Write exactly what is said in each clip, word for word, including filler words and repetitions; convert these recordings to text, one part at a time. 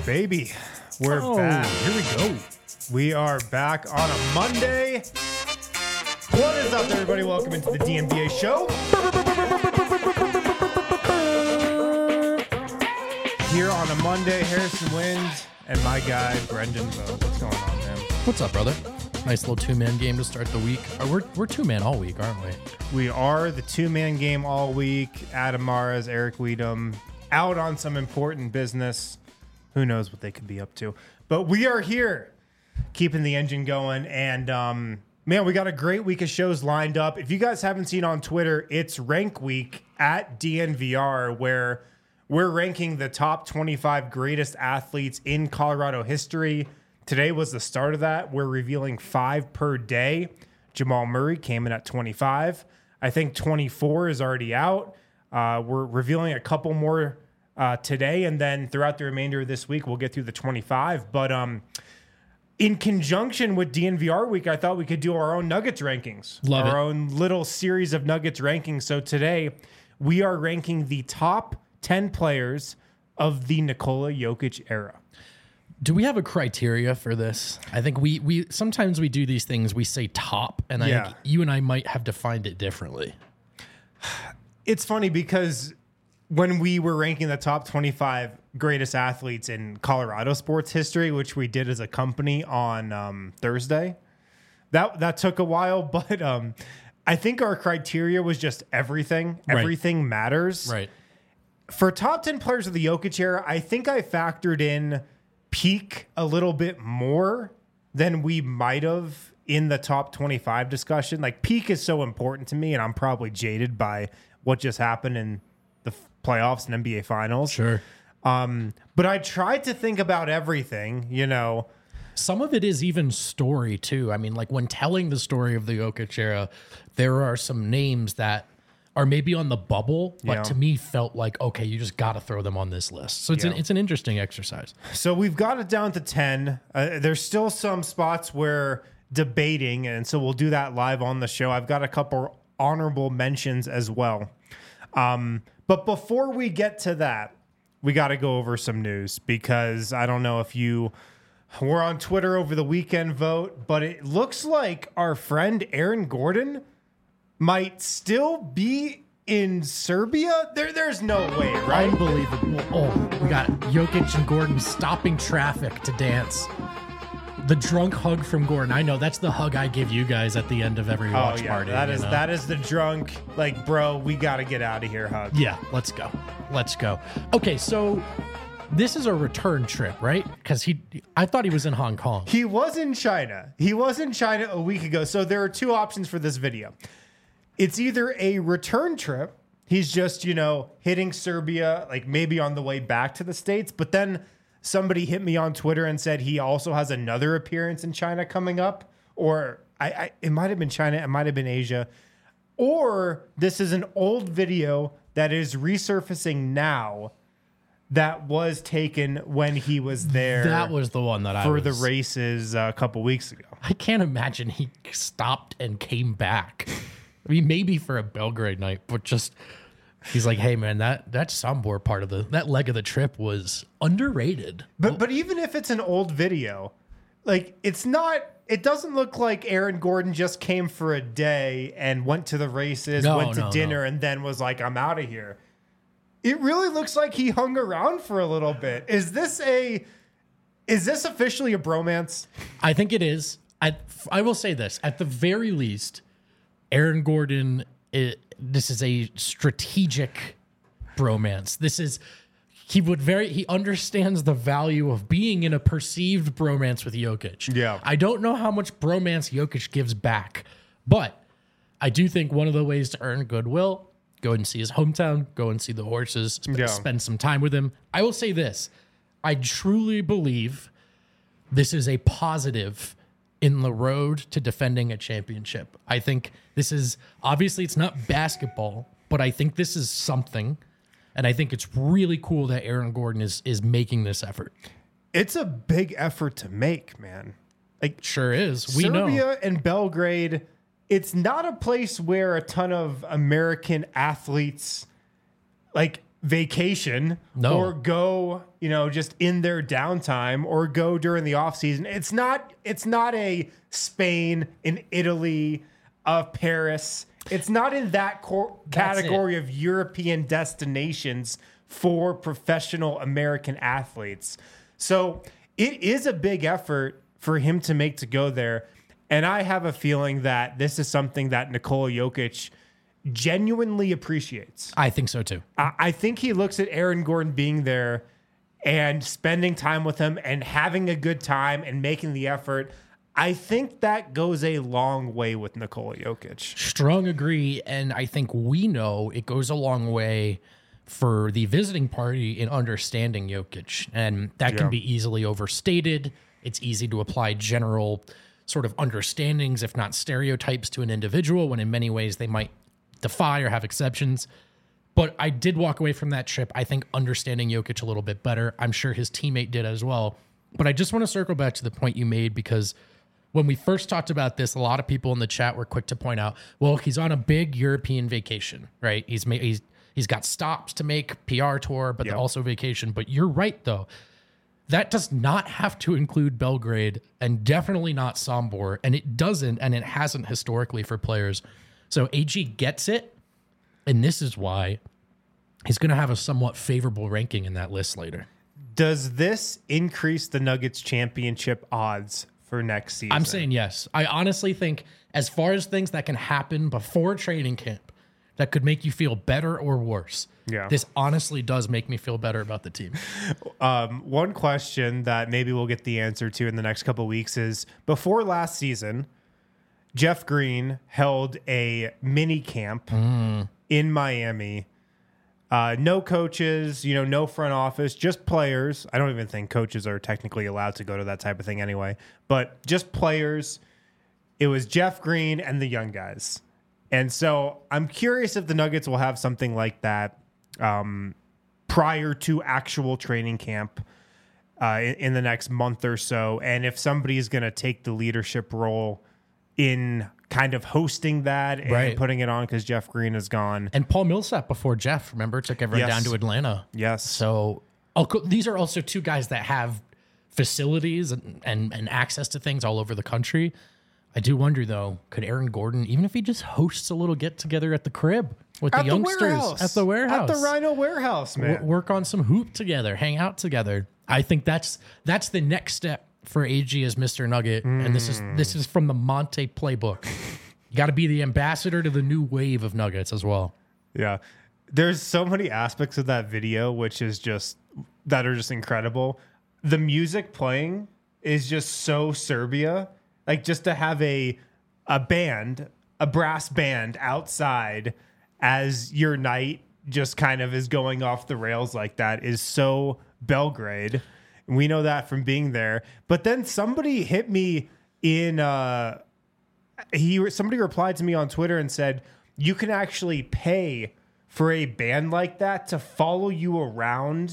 baby. We're oh, back. Here we go. We are back on a Monday. What is up, everybody? Welcome into the D N B A show. Here on a Monday, Harrison Wind and my guy, Brendan Vogt. What's going on, man? What's up, brother? Nice little two-man game to start the week. Or we're we're two-man all week, aren't we? We are the two-man game all week. Adam Mares, Eric Weedham, out on some important business. Who knows what they could be up to. But we are here, keeping the engine going. And, um, man, we got a great week of shows lined up. If you guys haven't seen on Twitter, it's Rank Week at D N V R, where we're ranking the top twenty-five greatest athletes in Colorado history. Today was the start of that. We're revealing five per day. Jamal Murray came in at twenty-five. I think twenty-four is already out. Uh, we're revealing a couple more uh, today, and then throughout the remainder of this week, we'll get through the twenty-five. But um, in conjunction with D N V R week, I thought we could do our own Nuggets rankings. Love our it. own little series of Nuggets rankings. So today, we are ranking the top ten players of the Nikola Jokic era. Do we have a criteria for this? I think we we sometimes we do these things. We say top, and I Yeah. think you and I might have defined it differently. It's funny because when we were ranking the top twenty-five greatest athletes in Colorado sports history, which we did as a company on um, Thursday, that that took a while, but um, I think our criteria was just everything. Right. Everything matters. Right. For top ten players of the Jokic era, I think I factored in peak a little bit more than we might have in the top twenty-five discussion. Like, peak is so important to me, and I'm probably jaded by what just happened in the f- playoffs and N B A finals. Sure. Um, but I tried to think about everything, you know. Some of it is even story too. I mean, like when telling the story of the Jokic era, there are some names that are maybe on the bubble, but Yeah. to me felt like, okay, you just got to throw them on this list. So it's Yeah. an it's an interesting exercise. So we've got it down to ten. Uh, there's still some spots where debating, and so we'll do that live on the show. I've got a couple honorable mentions as well. Um, but before we get to that, we got to go over some news, because I don't know if you were on Twitter over the weekend, Vote, but it looks like our friend Aaron Gordon might still be in Serbia. There, there's no way, right? Unbelievable. Oh, we got Jokic and Gordon stopping traffic to dance. The drunk hug from Gordon. I know that's the hug I give you guys at the end of every watch oh, yeah, party. that you is know? that is the drunk, like, bro, we got to get out of here hug. Yeah, let's go. Let's go. Okay, so this is a return trip, right? Because he, I thought he was in Hong Kong. He was in China. He was in China a week ago. So there are two options for this video. It's either a return trip. He's just, you know, hitting Serbia, like maybe on the way back to the States. But then somebody hit me on Twitter and said he also has another appearance in China coming up. Or I, I it might have been China. It might have been Asia. Or this is an old video that is resurfacing now that was taken when he was there. That was the one that I for was, the races uh, a couple weeks ago. I can't imagine he stopped and came back. I mean, maybe for a Belgrade night, but just he's like, hey man, that that Sombor part of the that leg of the trip was underrated. But but even if it's an old video, like it's not. It doesn't look like Aaron Gordon just came for a day and went to the races, No, went to no, dinner, no. and then was like, I'm out of here. It really looks like he hung around for a little bit. Is this a? Is this officially a bromance? I think it is. I I will say this at the very least. Aaron Gordon, it, this is a strategic bromance. This is, he would very, he understands the value of being in a perceived bromance with Jokic. Yeah. I don't know how much bromance Jokic gives back, but I do think one of the ways to earn goodwill, go and see his hometown, go and see the horses, sp- Yeah. spend some time with him. I will say this, I truly believe this is a positive in the road to defending a championship. I think this is, obviously it's not basketball, but I think this is something. And I think it's really cool that Aaron Gordon is is making this effort. It's a big effort to make, man. Like, Sure is. We Serbia know. and Belgrade, it's not a place where a ton of American athletes, like, vacation No. or go, you know, just in their downtime or go during the off season. It's not, it's not a Spain, an Italy, of Paris. It's not in that cor- category of European destinations for professional American athletes. So it is a big effort for him to make to go there. And I have a feeling that this is something that Nikola Jokic genuinely appreciates. I think so too. I, I think he looks at Aaron Gordon being there and spending time with him and having a good time and making the effort. I think that goes a long way with Nikola Jokic. Strong agree. And I think we know it goes a long way for the visiting party in understanding Jokic. And that can Yeah. be easily overstated. It's easy to apply general sort of understandings, if not stereotypes, to an individual when in many ways they might defy or have exceptions. But I did walk away from that trip, I think, understanding Jokic a little bit better. I'm sure his teammate did as well. But I just want to circle back to the point you made, because when we first talked about this, a lot of people in the chat were quick to point out, well, he's on a big European vacation, right? He's made, he's he's got stops to make, P R tour, but Yep. also vacation. But you're right, though. That does not have to include Belgrade and definitely not Sombor. And it doesn't, and it hasn't historically for players. So A G gets it, and this is why he's going to have a somewhat favorable ranking in that list later. Does this increase the Nuggets championship odds for next season? I'm saying yes. I honestly think as far as things that can happen before training camp that could make you feel better or worse, Yeah. this honestly does make me feel better about the team. Um, one question that maybe we'll get the answer to in the next couple of weeks is, before last season, Jeff Green held a mini camp Mm. in Miami. Uh, no coaches, you know, no front office, just players. I don't even think coaches are technically allowed to go to that type of thing anyway, but just players. It was Jeff Green and the young guys. And so I'm curious if the Nuggets will have something like that um, prior to actual training camp uh, in, in the next month or so. And if somebody is going to take the leadership role in kind of hosting that and Right. putting it on because Jeff Green is gone. And Paul Millsap before Jeff, remember, took everyone Yes. down to Atlanta. Yes. So I'll co- these are also two guys that have facilities and, and, and access to things all over the country. I do wonder, though, could Aaron Gordon, even if he just hosts a little get-together at the crib with At the youngsters warehouse. at the warehouse, At the Rhino warehouse, man. w- work on some hoop together, hang out together. I think that's that's the next step for A G as Mister Nugget, and this is this is from the Monte playbook. You got to be the ambassador to the new wave of Nuggets as well. Yeah. There's so many aspects of that video which is just that are just incredible. The music playing is just so Serbia. Like, just to have a a band, a brass band outside as your night just kind of is going off the rails like that is so Belgrade. We know that from being there. But then somebody hit me in uh he somebody replied to me on Twitter and said, you can actually pay for a band like that to follow you around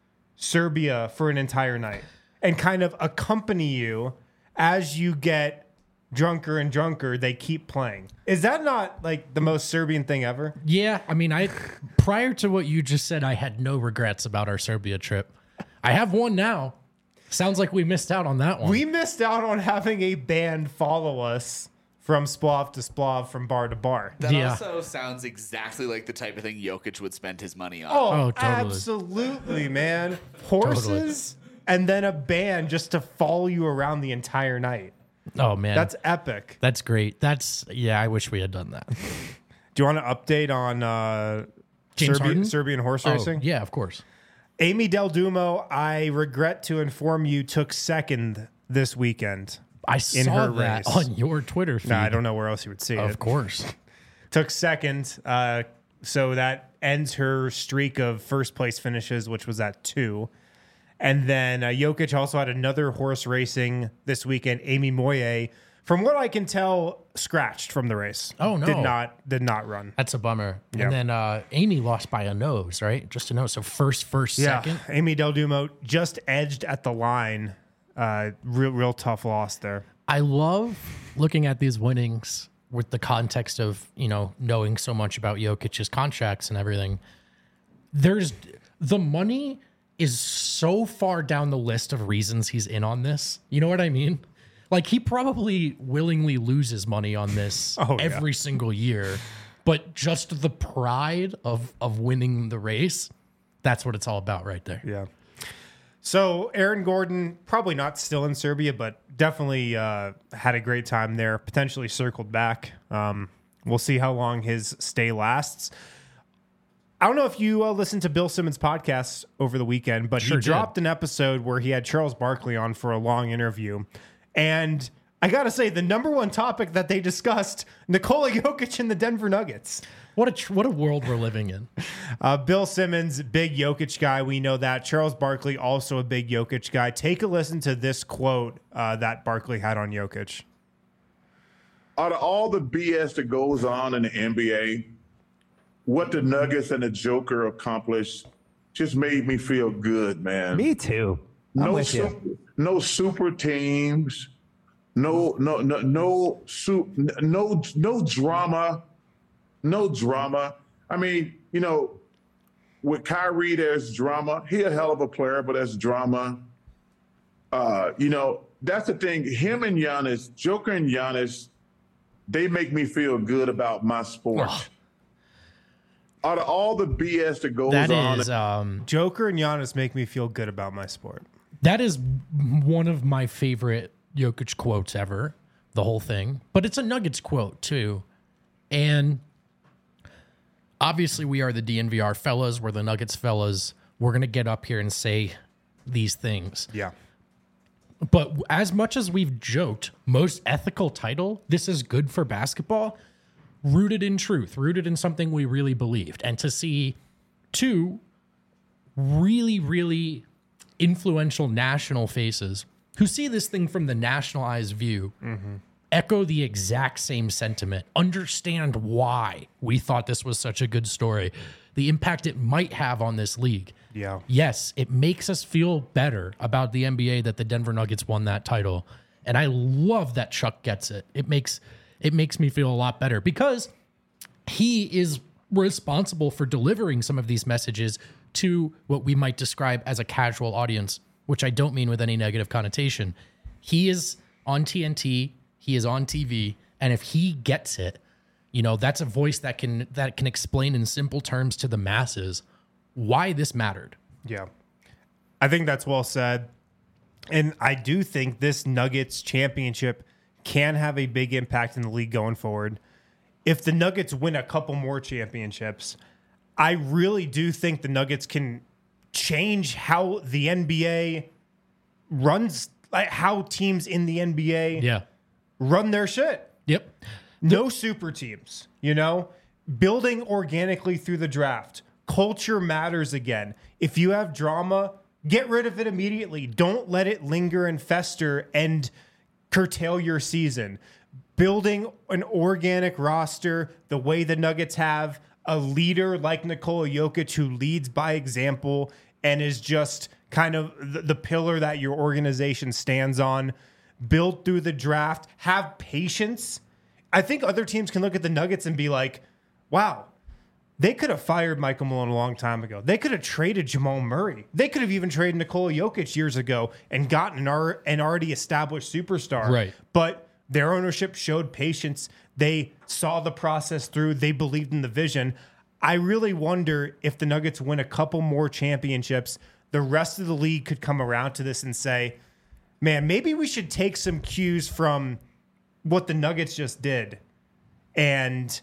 Serbia for an entire night and kind of accompany you as you get drunker and drunker. They keep playing. Is that not like the most Serbian thing ever? Yeah, I mean, I prior to what you just said, I had no regrets about our Serbia trip. I have one now. Sounds like we missed out on that one. We missed out on having a band follow us from splav to splav, from bar to bar. That Yeah. also sounds exactly like the type of thing Jokic would spend his money on. Oh, Oh, totally. absolutely, man. Horses and then a band just to follow you around the entire night. oh man, That's epic. that's great. That's yeah. I wish we had done that. Do you want to update on uh, James Serbian, Harden? Serbian horse Oh, racing? yeah, of course. Amy Del Dumo, I regret to inform you, took second this weekend. I In saw her that race. on your Twitter feed. Nah, I don't know where else you would see Of it. course. Took second. Uh, so that ends her streak of first place finishes, which was at two. And then uh, Jokic also had another horse racing this weekend. Amy Moye, from what I can tell, scratched from the race. Oh, no. Did not did not run. That's a bummer. Yeah. And then uh, Amy lost by a nose, right? Just a nose. So first, first, Yeah, second. Amy Del Dumo just edged at the line. Uh, real real tough loss there. I love looking at these winnings with the context of, you know, knowing so much about Jokic's contracts and everything. there's the money is so far down the list of reasons he's in on this. You know what I mean? Like, he probably willingly loses money on this Oh, yeah. every single year, but just the pride of of winning the race, that's what it's all about right there. Yeah. So Aaron Gordon, probably not still in Serbia, but definitely uh, had a great time there, potentially circled back. Um, we'll see how long his stay lasts. I don't know if you uh, listened to Bill Simmons' podcast over the weekend, but Sure he did. dropped an episode where he had Charles Barkley on for a long interview. And I got to say, the number one topic that they discussed, Nikola Jokic and the Denver Nuggets. What a tr- what a world we're living in. Uh, Bill Simmons, big Jokic guy. We know that. Charles Barkley, also a big Jokic guy. Take a listen to this quote uh, that Barkley had on Jokic. Out of all the B S that goes on in the N B A, what the Nuggets and the Joker accomplished just made me feel good, man. Me too. I'm no, with you. super, no super teams, no, no, no, no, su- no, no drama, no drama. I mean, you know, with Kyrie, there's drama. He a hell of a player, but there's drama. Uh, you know, that's the thing. Him and Giannis, Joker and Giannis, they make me feel good about my sport. Ugh. Out of all the B S that goes That on, is um, Joker and Giannis make me feel good about my sport. that is one of my favorite Jokic quotes ever, the whole thing. But it's a Nuggets quote too. And obviously we are the D N V R fellas, we're the Nuggets fellas. We're going to get up here and say these things. Yeah. But as much as we've joked, most ethical title, this is good for basketball, rooted in truth, rooted in something we really believed. And to see two really, really influential national faces who see this thing from the nationalized view, echo the exact same sentiment, understand why we thought this was such a good story, the impact it might have on this league. Yeah. Yes, it makes us feel better about the N B A that the Denver Nuggets won that title. And I love that Chuck gets it. It makes it makes me feel a lot better because he is responsible for delivering some of these messages to what we might describe as a casual audience, which I don't mean with any negative connotation. He is on T N T, he is on T V, and if he gets it, you know, that's a voice that can that can explain in simple terms to the masses why this mattered. Yeah. I think that's well said. And I do think this Nuggets championship can have a big impact in the league going forward. If the Nuggets win a couple more championships, I really do think the Nuggets can change how the N B A runs, like how teams in the N B A Yeah. run their shit. Yep. No super teams, you know, building organically through the draft. Culture matters again. If you have drama, get rid of it immediately. Don't let it linger and fester and curtail your season. Building an organic roster the way the Nuggets have, a leader like Nikola Jokic who leads by example and is just kind of the, the pillar that your organization stands on. Build through the draft. Have patience. I think other teams can look at the Nuggets and be like, wow, they could have fired Michael Malone a long time ago. They could have traded Jamal Murray. They could have even traded Nikola Jokic years ago and gotten an, ar- an already established superstar. Right. But their ownership showed patience. They saw the process through. They believed in the vision. I really wonder if the Nuggets win a couple more championships, the rest of the league could come around to this and say, man, maybe we should take some cues from what the Nuggets just did and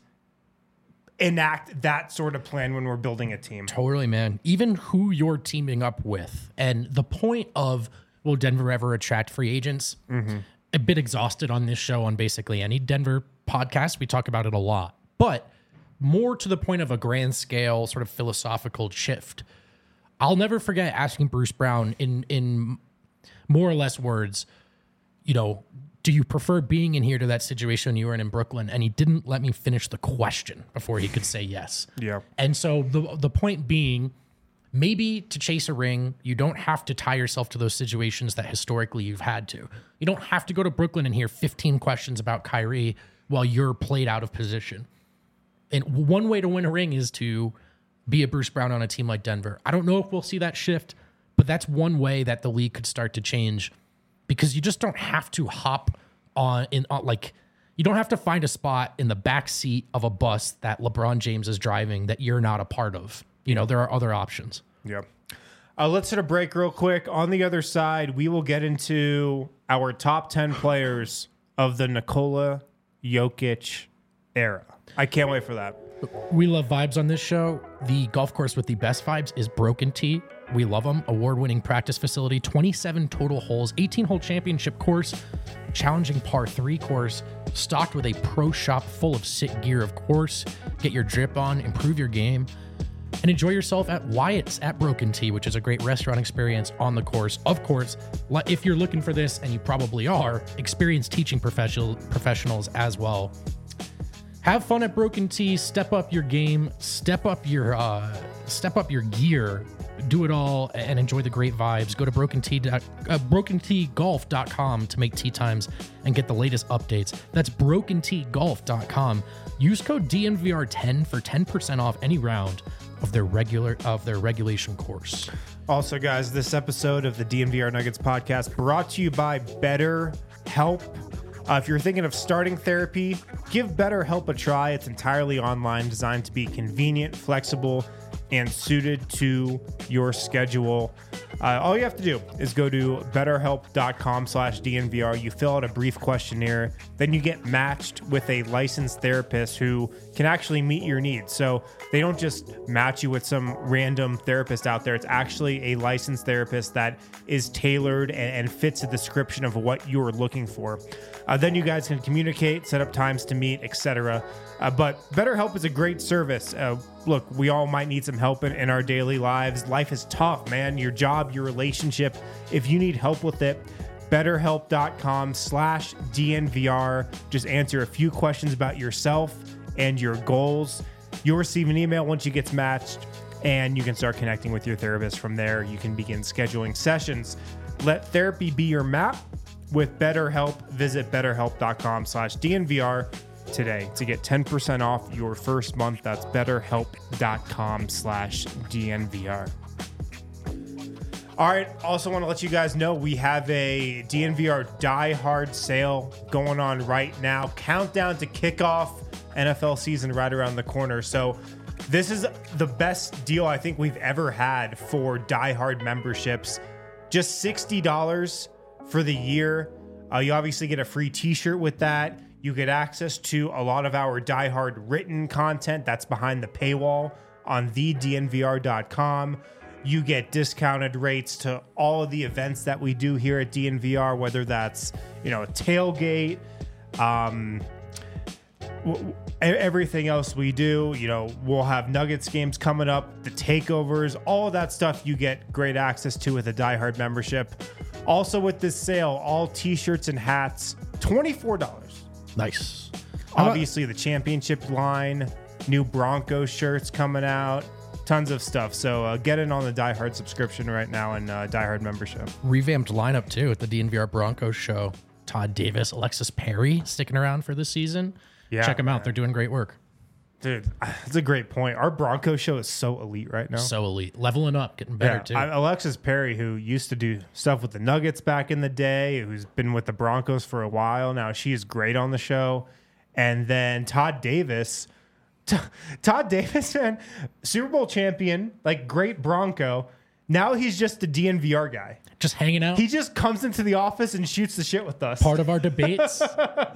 enact that sort of plan when we're building a team. Totally, man. Even who you're teaming up with. And the point of, will Denver ever attract free agents? Mm-hmm. A bit exhausted on this show on basically any Denver podcast. We talk about it a lot. But more to the point of a grand scale sort of philosophical shift. I'll never forget asking Bruce Brown in in more or less words, you know, do you prefer being in here to that situation you were in in Brooklyn? And he didn't let me finish the question before he could say yes. Yeah. And so the the point being, maybe to chase a ring, you don't have to tie yourself to those situations that historically you've had to. You don't have to go to Brooklyn and hear fifteen questions about Kyrie while you're played out of position. And one way to win a ring is to be a Bruce Brown on a team like Denver. I don't know if we'll see that shift, but that's one way that the league could start to change, because you just don't have to hop on in on, like you don't have to find a spot in the back seat of a bus that LeBron James is driving that you're not a part of. You know, there are other options. Yeah. Uh, let's hit a break real quick. On the other side, we will get into our top ten players of the Nikola Jokic era. I can't wait for that. We love vibes on this show. The golf course with the best vibes is Broken Tee. We love them. Award-winning practice facility, twenty-seven total holes, eighteen-hole championship course, challenging par three course, stocked with a pro shop full of sit gear, of course. Get your drip on, improve your game, and enjoy yourself at Wyatt's at Broken Tee, which is a great restaurant experience on the course. Of course, if you're looking for this, and you probably are, experienced teaching professional professionals as well. Have fun at Broken Tee. Step up your game. Step up your uh, step up your gear. Do it all and enjoy the great vibes. Go to broken tee, uh, broken tee golf dot com to make tee times and get the latest updates. That's broken tee golf dot com. Use code D N V R ten for ten percent off any round of their regular of their regulation course. Also, guys, this episode of the D N V R Nuggets podcast brought to you by BetterHelp. Uh, if you're thinking of starting therapy, give BetterHelp a try. It's entirely online, designed to be convenient, flexible, and suited to your schedule. Uh, all you have to do is go to betterhelp.com slash DNVR. You fill out a brief questionnaire. Then you get matched with a licensed therapist who can actually meet your needs. So they don't just match you with some random therapist out there. It's actually a licensed therapist that is tailored and, and fits the description of what you're looking for. Uh, then you guys can communicate, set up times to meet, et cetera. Uh, but BetterHelp is a great service. Uh, look, we all might need some help in, in our daily lives. Life is tough, man. Your job, your relationship. If you need help with it, betterhelp.com slash DNVR. Just answer a few questions about yourself and your goals. You'll receive an email once you get matched, and you can start connecting with your therapist from there. You can begin scheduling sessions. Let therapy be your map with BetterHelp. Visit betterhelp.com slash DNVR today to get ten percent off your first month. That's betterhelp.com slash DNVR. All right. Also want to let you guys know we have a D N V R Die Hard sale going on right now. Countdown to kickoff. N F L season right around the corner. So this is the best deal I think we've ever had for Die Hard memberships. Just sixty dollars for the year. Uh, you obviously get a free t-shirt with that. You get access to a lot of our Die Hard written content that's behind the paywall on the D N V R dot com. You get discounted rates to all of the events that we do here at D N V R, whether that's, you know, a tailgate, um, w- everything else we do. You know, we'll have Nuggets games coming up, the takeovers, all of that stuff you get great access to with a Die Hard membership. Also with this sale, all t-shirts and hats, twenty-four dollars. Nice. Obviously, the championship line, new Broncos shirts coming out, tons of stuff. So uh, get in on the Die Hard subscription right now and uh, Die Hard membership. Revamped lineup, too, at the D N V R Broncos show. Todd Davis, Alexis Perry sticking around for this season. Yeah, check them out. man. They're doing great work. Dude, that's a great point. Our Broncos show is so elite right now. So elite. Leveling up, getting better, Yeah, too. I- Alexis Perry, who used to do stuff with the Nuggets back in the day, who's been with the Broncos for a while now, she is great on the show. And then Todd Davis, T- Todd Davis, man, Super Bowl champion, like great Bronco. Now he's just a D N V R guy. Just hanging out. He just comes into the office and shoots the shit with us. Part of our debates.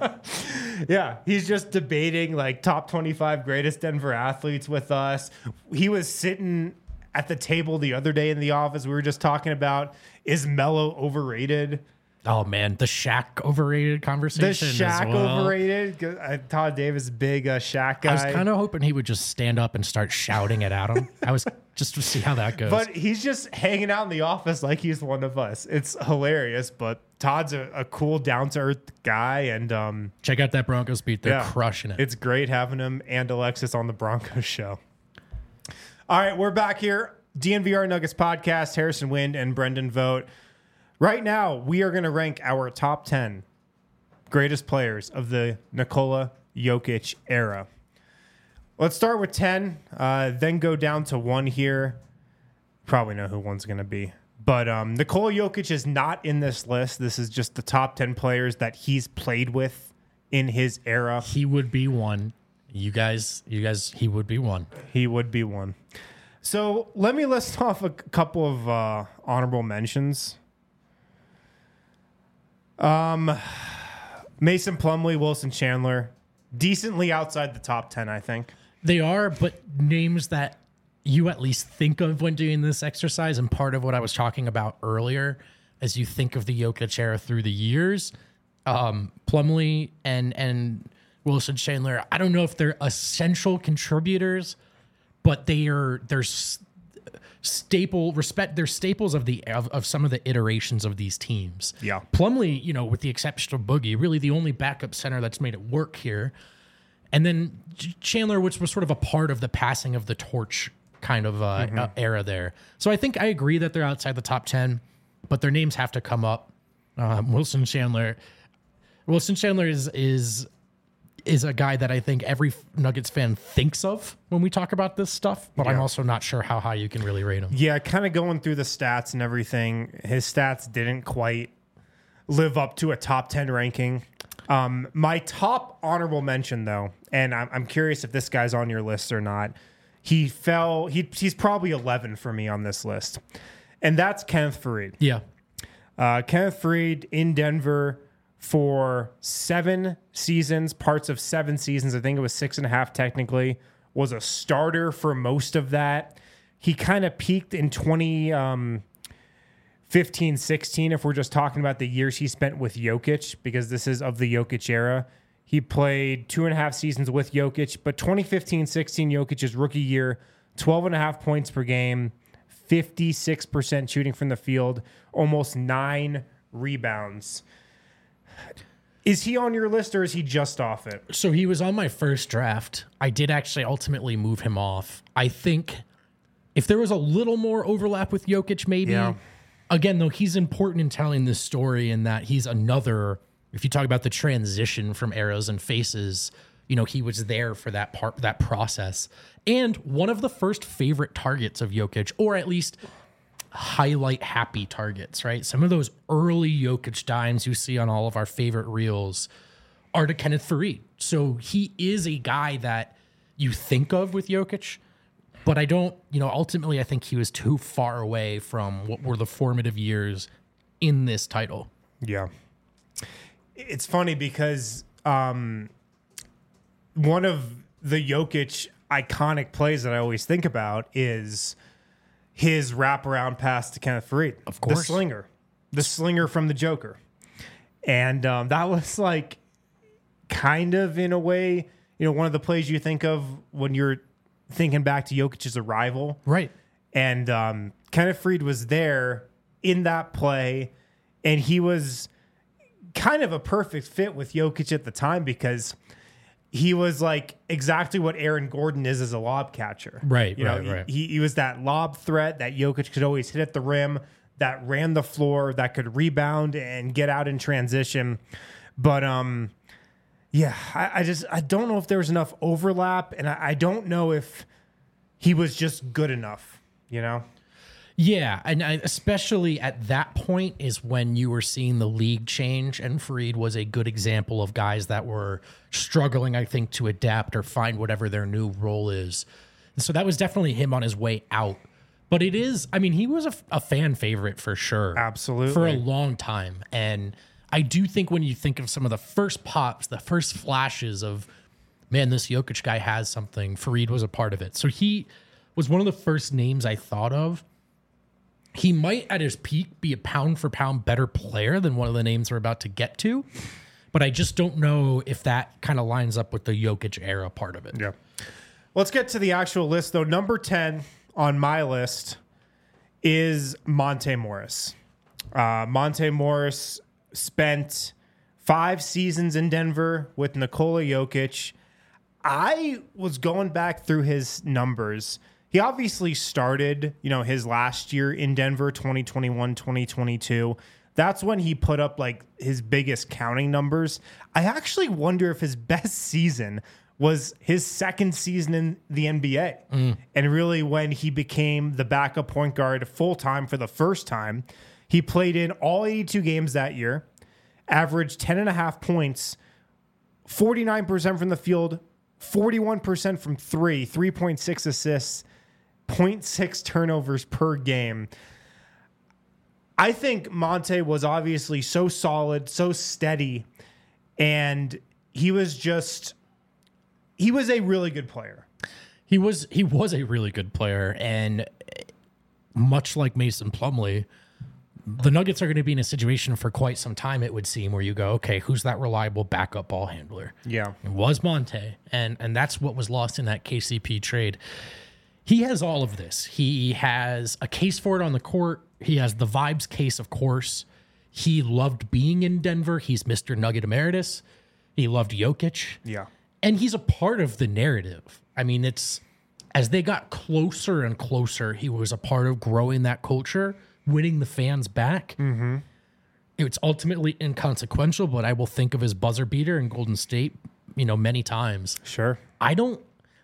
Yeah, he's just debating like top twenty-five greatest Denver athletes with us. He was sitting at the table the other day in the office. We were just talking about, is Melo overrated? Oh, man. The Shaq overrated The conversation. Shaq as well. overrated? 'Cause, uh, Todd Davis, big uh, Shaq guy. I was kind of hoping he would just stand up and start shouting it at him. I was just to see how that goes. But he's just hanging out in the office like he's one of us. It's hilarious, but Todd's a, a cool, down-to-earth guy. And um, check out that Broncos beat. They're yeah, crushing it. It's great having him and Alexis on the Broncos show. All right, we're back here. D N V R Nuggets podcast, Harrison Wind and Brendan Vogt. Right now, we are going to rank our top ten greatest players of the Nikola Jokic era. Let's start with ten, uh, then go down to one here. Probably know who one's going to be. But um, Nikola Jokic is not in this list. This is just the top ten players that he's played with in his era. He would be one. You guys, you guys, he would be one. He would be one. So let me list off a couple of uh, honorable mentions. Um, Mason Plumlee, Wilson Chandler, decently outside the top ten, I think. They are, but names that you at least think of when doing this exercise, and part of what I was talking about earlier, as you think of the Jokic era through the years, um, Plumlee and and Wilson Chandler, I don't know if they're essential contributors, but they are they're s- staple respect. They're staples of the of, of some of the iterations of these teams. Yeah, Plumlee, you know, with the exception of Boogie, really the only backup center that's made it work here. And then Chandler, which was sort of a part of the passing of the torch kind of uh, mm-hmm. uh, era there. So I think I agree that they're outside the top ten, but their names have to come up. Um, Wilson Chandler, Wilson Chandler is is is a guy that I think every Nuggets fan thinks of when we talk about this stuff, but yeah. I'm also not sure how high you can really rate him. Yeah, kind of going through the stats and everything, his stats didn't quite live up to a top ten ranking. Um, my top honorable mention, though, and I'm, I'm curious if this guy's on your list or not. He fell. He he's probably eleven for me on this list, and that's Kenneth Faried. Yeah, uh, Kenneth Faried in Denver for seven seasons, parts of seven seasons. I think it was six and a half technically. Was a starter for most of that. He kind of peaked in twenty. Um, fifteen, sixteen, if we're just talking about the years he spent with Jokic, because this is of the Jokic era. He played two and a half seasons with Jokic, but twenty fifteen sixteen, Jokic's rookie year, twelve and a half points per game, fifty-six percent shooting from the field, almost nine rebounds. Is he on your list or is he just off it? So he was on my first draft. I did actually ultimately move him off. I think if there was a little more overlap with Jokic, maybe. Yeah. Again, though, he's important in telling this story in that he's another, if you talk about the transition from eras and faces, you know, he was there for that part, that process. And one of the first favorite targets of Jokic, or at least highlight happy targets, right? Some of those early Jokic dimes you see on all of our favorite reels are to Kenneth Faried. So he is a guy that you think of with Jokic. But I don't, you know, ultimately I think he was too far away from what were the formative years in this title. Yeah. It's funny because um, one of the Jokic iconic plays that I always think about is his wraparound pass to Kenneth Faried. Of course. The slinger. The slinger from the Joker. And um, that was like kind of in a way, you know, one of the plays you think of when you're thinking back to Jokic's arrival. Right. And um, Kenneth Faried was there in that play, and he was kind of a perfect fit with Jokic at the time because he was like exactly what Aaron Gordon is as a lob catcher. Right, you know, right, right. He, he was that lob threat that Jokic could always hit at the rim, that ran the floor, that could rebound and get out in transition. But um, yeah, I, I just I don't know if there was enough overlap, and I, I don't know if he was just good enough, you know? Yeah, and I, especially at that point is when you were seeing the league change, and Faried was a good example of guys that were struggling, I think, to adapt or find whatever their new role is. And so that was definitely him on his way out. But it is, I mean, he was a, a fan favorite for sure. Absolutely. For a long time. And I do think when you think of some of the first pops, the first flashes of, man, this Jokic guy has something, Faried was a part of it. So he was one of the first names I thought of. He might, at his peak, be a pound-for-pound better player than one of the names we're about to get to, but I just don't know if that kind of lines up with the Jokic era part of it. Yeah. Let's get to the actual list, though. Number ten on my list is Monte Morris. Uh, Monte Morris spent five seasons in Denver with Nikola Jokic. I was going back through his numbers. He obviously started, you know, his last year in Denver, twenty twenty-one, twenty twenty-two. That's when he put up like his biggest counting numbers. I actually wonder if his best season was his second season in the N B A. Mm. And really when he became the backup point guard full-time for the first time. He played in all eighty-two games that year, averaged ten and a half points, forty-nine percent from the field, forty-one percent from three, three point six assists, zero point six turnovers per game. I think Monte was obviously so solid, so steady, and he was just, he was a really good player. He was, he was a really good player, and much like Mason Plumlee, the Nuggets are going to be in a situation for quite some time, it would seem, where you go, okay, who's that reliable backup ball handler? Yeah. It was Monte, and and that's what was lost in that K C P trade. He has all of this. He has a case for it on the court. He has the vibes case, of course. He loved being in Denver. He's Mister Nugget Emeritus. He loved Jokic. Yeah. And he's a part of the narrative. I mean, it's as they got closer and closer, he was a part of growing that culture, winning the fans back. Mm-hmm. It's ultimately inconsequential, but I will think of his buzzer beater in Golden State, you know, many times. Sure. I don't,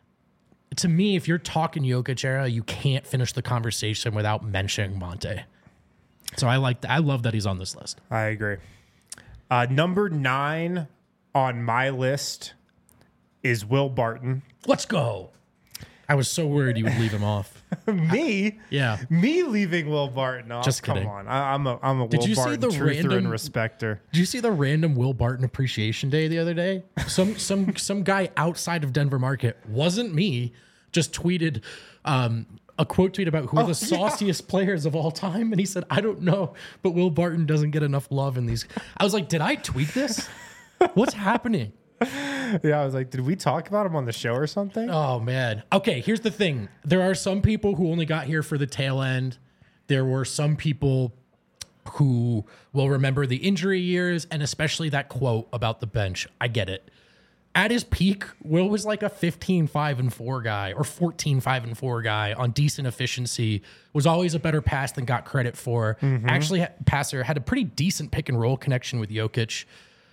to me, if you're talking Jokic era, you can't finish the conversation without mentioning Monte. So I like that. I love that he's on this list. I agree. Uh, number nine on my list is Will Barton. Let's go. I was so worried you would leave him off. Me? Yeah. Me leaving Will Barton off? Just Come kidding. on. I, I'm a, I'm a Did Will you see Barton the truther random- and respecter. Did you see the random Will Barton Appreciation Day the other day? Some some some guy outside of Denver market, wasn't me, just tweeted um, a quote tweet about who are Oh, the sauciest players of all time, and he said, "I don't know, but Will Barton doesn't get enough love in these." I was like, "Did I tweet this? What's happening?" Yeah, I was like, did we talk about him on the show or something? Oh, man. Okay, here's the thing. There are some people who only got here for the tail end. There were some people who will remember the injury years and especially that quote about the bench. I get it. At his peak, Will was like a fifteen five and four guy or fourteen five and four guy on decent efficiency, was always a better pass than got credit for. Mm-hmm. Actually, ha- passer had a pretty decent pick and roll connection with Jokic.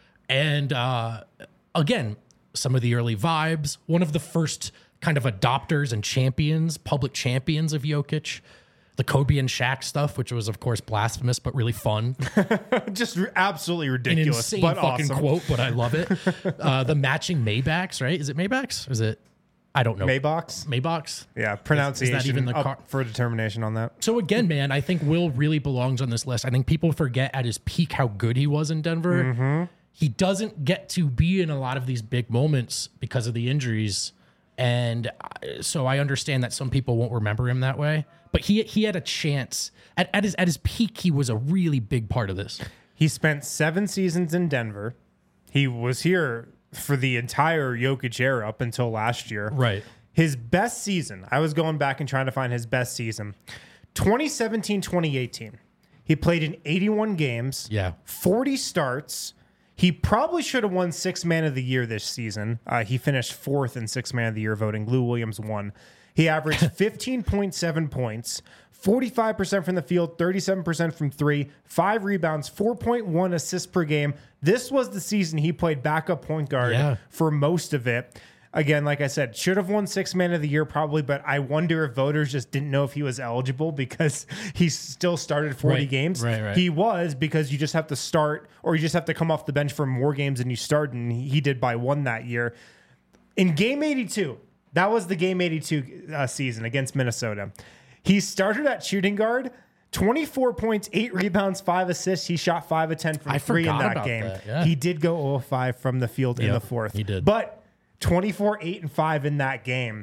And uh, again, some of the early vibes, one of the first kind of adopters and champions, public champions of Jokic. The Kobe and Shaq stuff, which was, of course, blasphemous, but really fun. Just r- absolutely An ridiculous, insane but fucking awesome. quote, but I love it. Uh, the matching Maybachs, right? Is it Maybachs? Or is it? I don't know. Maybox? Maybachs? Yeah, pronunciation even the up car- for determination on that. So again, man, I think Will really belongs on this list. I think people forget at his peak how good he was in Denver. Mm-hmm. He doesn't get to be in a lot of these big moments because of the injuries. And uh, so I understand that some people won't remember him that way. But he he had a chance. At, at his at his peak, he was a really big part of this. He spent seven seasons in Denver. He was here for the entire Jokic era up until last year. Right. His best season, I was going back and trying to find his best season, twenty seventeen twenty eighteen. He played in eighty-one games, Yeah. forty starts. He probably should have won Sixth Man of the Year this season. Uh, he finished fourth in Sixth Man of the Year voting. Lou Williams won. He averaged fifteen point seven points, forty-five percent from the field, thirty-seven percent from three, five rebounds, four point one assists per game. This was the season he played backup point guard Yeah. for most of it. Again, like I said, should have won Sixth Man of the Year probably, but I wonder if voters just didn't know if he was eligible because he still started forty Right, games. right, right. He was, because you just have to start or you just have to come off the bench for more games than you start, and he did by one that year. In game eighty-two, that was the game eighty-two uh, season against Minnesota. He started at shooting guard, twenty-four points, eight rebounds, five assists. He shot five of ten from I three in forgot that about game. that, yeah. He did go zero of five from the field in Yep, the fourth. he did. But twenty-four, eight, and five in that game.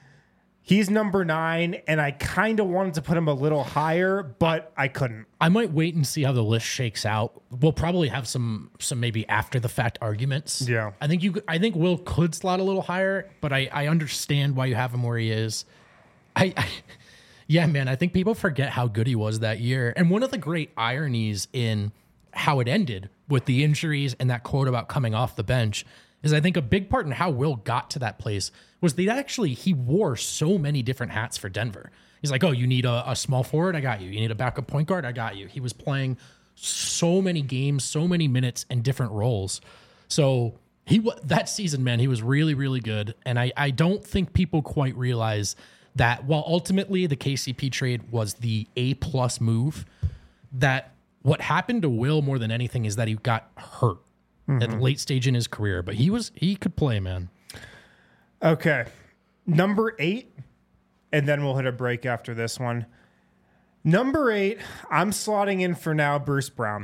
He's number nine, and I kind of wanted to put him a little higher, but I couldn't. I might wait and see how the list shakes out. We'll probably have some some maybe after the fact arguments. Yeah. I think you I think Will could slot a little higher, but I, I understand why you have him where he is. I, I yeah, man, I think people forget how good he was that year. And one of the great ironies in how it ended with the injuries and that quote about coming off the bench is I think a big part in how Will got to that place was that actually he wore so many different hats for Denver. He's like, oh, you need a, a small forward? I got you. You need a backup point guard? I got you. He was playing so many games, so many minutes and different roles. So He wa- that season, man, he was really, really good. And I, I don't think people quite realize that while ultimately the K C P trade was the A plus move, that what happened to Will more than anything is that he got hurt mm-hmm. at the late stage in his career. But he was he could play, man. Okay. Number eight, and then we'll hit a break after this one. Number eight, I'm slotting in for now Bruce Brown.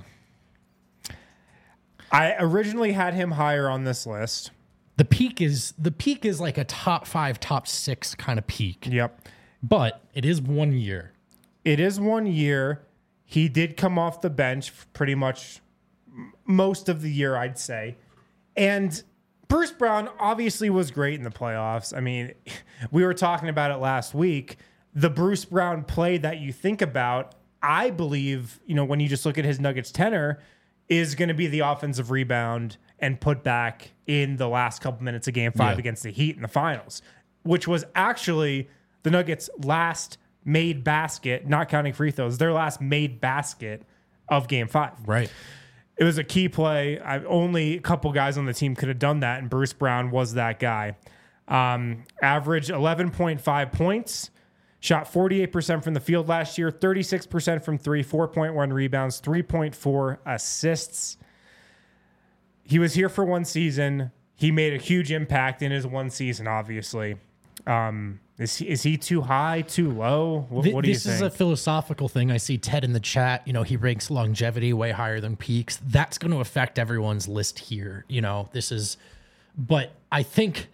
I originally had him higher on this list. The peak is the peak is like a top five, top six kind of peak. Yep. But it is one year. It is one year. He did come off the bench pretty much most of the year, I'd say. And Bruce Brown obviously was great in the playoffs. I mean, we were talking about it last week. The Bruce Brown play that you think about, I believe, you know, when you just look at his Nuggets tenor, is going to be the offensive rebound and put back in the last couple minutes of game five yeah. against the Heat in the finals, which was actually the Nuggets' last made basket, not counting free throws, their last made basket of game five. Right. It was a key play. I, only a couple guys on the team could have done that, and Bruce Brown was that guy. Um, averaged eleven point five points, shot forty-eight percent from the field last year, thirty-six percent from three, four point one rebounds, three point four assists. He was here for one season. He made a huge impact in his one season, obviously. Um, is he, is he too high, too low? What, what do you think? This is a philosophical thing. I see Ted in the chat. You know, he ranks longevity way higher than peaks. That's going to affect everyone's list here. You know, this is, but I think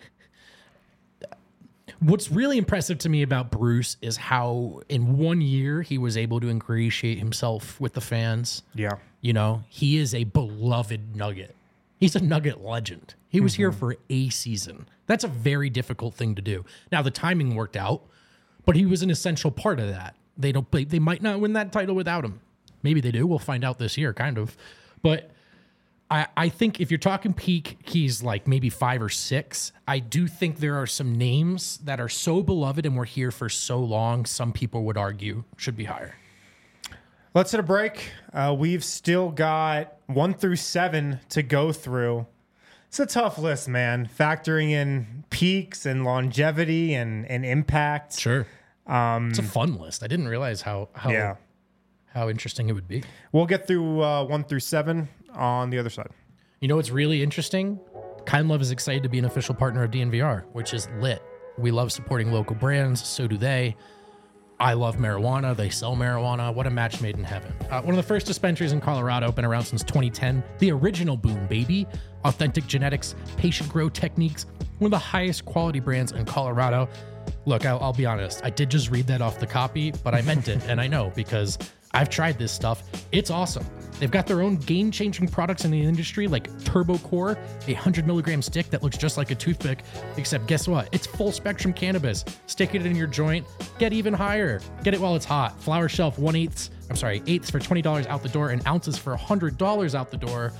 what's really impressive to me about Bruce is how in one year he was able to ingratiate himself with the fans. Yeah. You know, he is a beloved Nugget. He's a Nugget legend. He was mm-hmm. here for a season. That's a very difficult thing to do. Now, the timing worked out, but he was an essential part of that. They don't. They might not win that title without him. Maybe they do. We'll find out this year, kind of. But I, I think if you're talking peak, he's like maybe five or six. I do think there are some names that are so beloved and were here for so long, some people would argue should be higher. Let's hit a break. Uh, we've still got one through seven to go through. It's a tough list, man. Factoring in peaks and longevity and, and impact. Sure. Um, it's a fun list. I didn't realize how how, yeah. how interesting it would be. We'll get through uh, one through seven on the other side. You know what's really interesting? Kind Love is excited to be an official partner of D N V R, which is lit. We love supporting local brands. So do they. I love marijuana. They sell marijuana. What a match made in heaven. Uh, one of the first dispensaries in Colorado, been around since twenty ten. The original Boom Baby. Authentic genetics, patient grow techniques. One of the highest quality brands in Colorado. Look, I'll, I'll be honest. I did just read that off the copy, but I meant it. And I know because I've tried this stuff. It's awesome. They've got their own game-changing products in the industry like Turbo Core, a one hundred milligram stick that looks just like a toothpick, except guess what? It's full-spectrum cannabis. Stick it in your joint, get even higher. Get it while it's hot. Flower Shelf, one-eighth, I'm sorry, eighths for twenty dollars out the door and ounces for one hundred dollars out the door.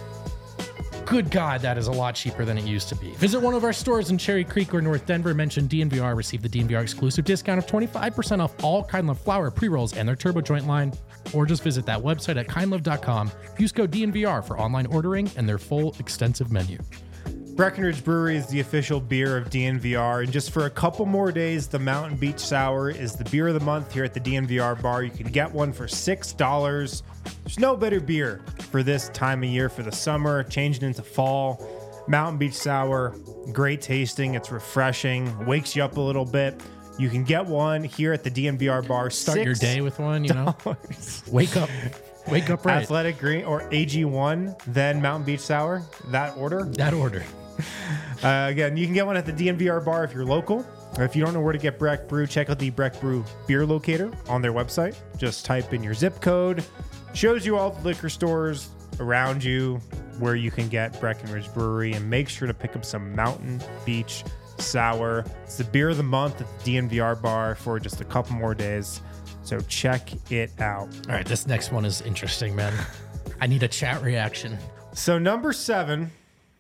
Good God, that is a lot cheaper than it used to be. Visit one of our stores in Cherry Creek or North Denver. Mention D N V R. Receive the D N V R exclusive discount of twenty-five percent off all Kind Love flower, pre-rolls, and their Turbo Joint line. Or just visit that website at kind love dot com. Use code D N V R for online ordering and their full extensive menu. Breckenridge Brewery is the official beer of D N V R, and just for a couple more days, the Mountain Beach Sour is the beer of the month here at the D N V R bar. You can get one for six dollars. There's no better beer for this time of year, for the summer, changing into fall. Mountain Beach Sour, great tasting. It's refreshing, wakes you up a little bit. You can get one here at the D N V R bar. Start your day with one, you know. Wake up. Wake up right. Athletic Green or A G one, then Mountain Beach Sour. That order? That order. Uh, again, you can get one at the D N V R bar if you're local. Or if you don't know where to get Breck Brew, check out the Breck Brew beer locator on their website. Just type in your zip code. Shows you all the liquor stores around you where you can get Breckenridge Brewery, and make sure to pick up some Mountain Beach Sour. It's the beer of the month at the D N V R bar for just a couple more days. So check it out. All right, this next one is interesting, man. I need a chat reaction. So number seven,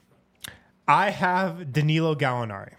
I have Danilo Gallinari.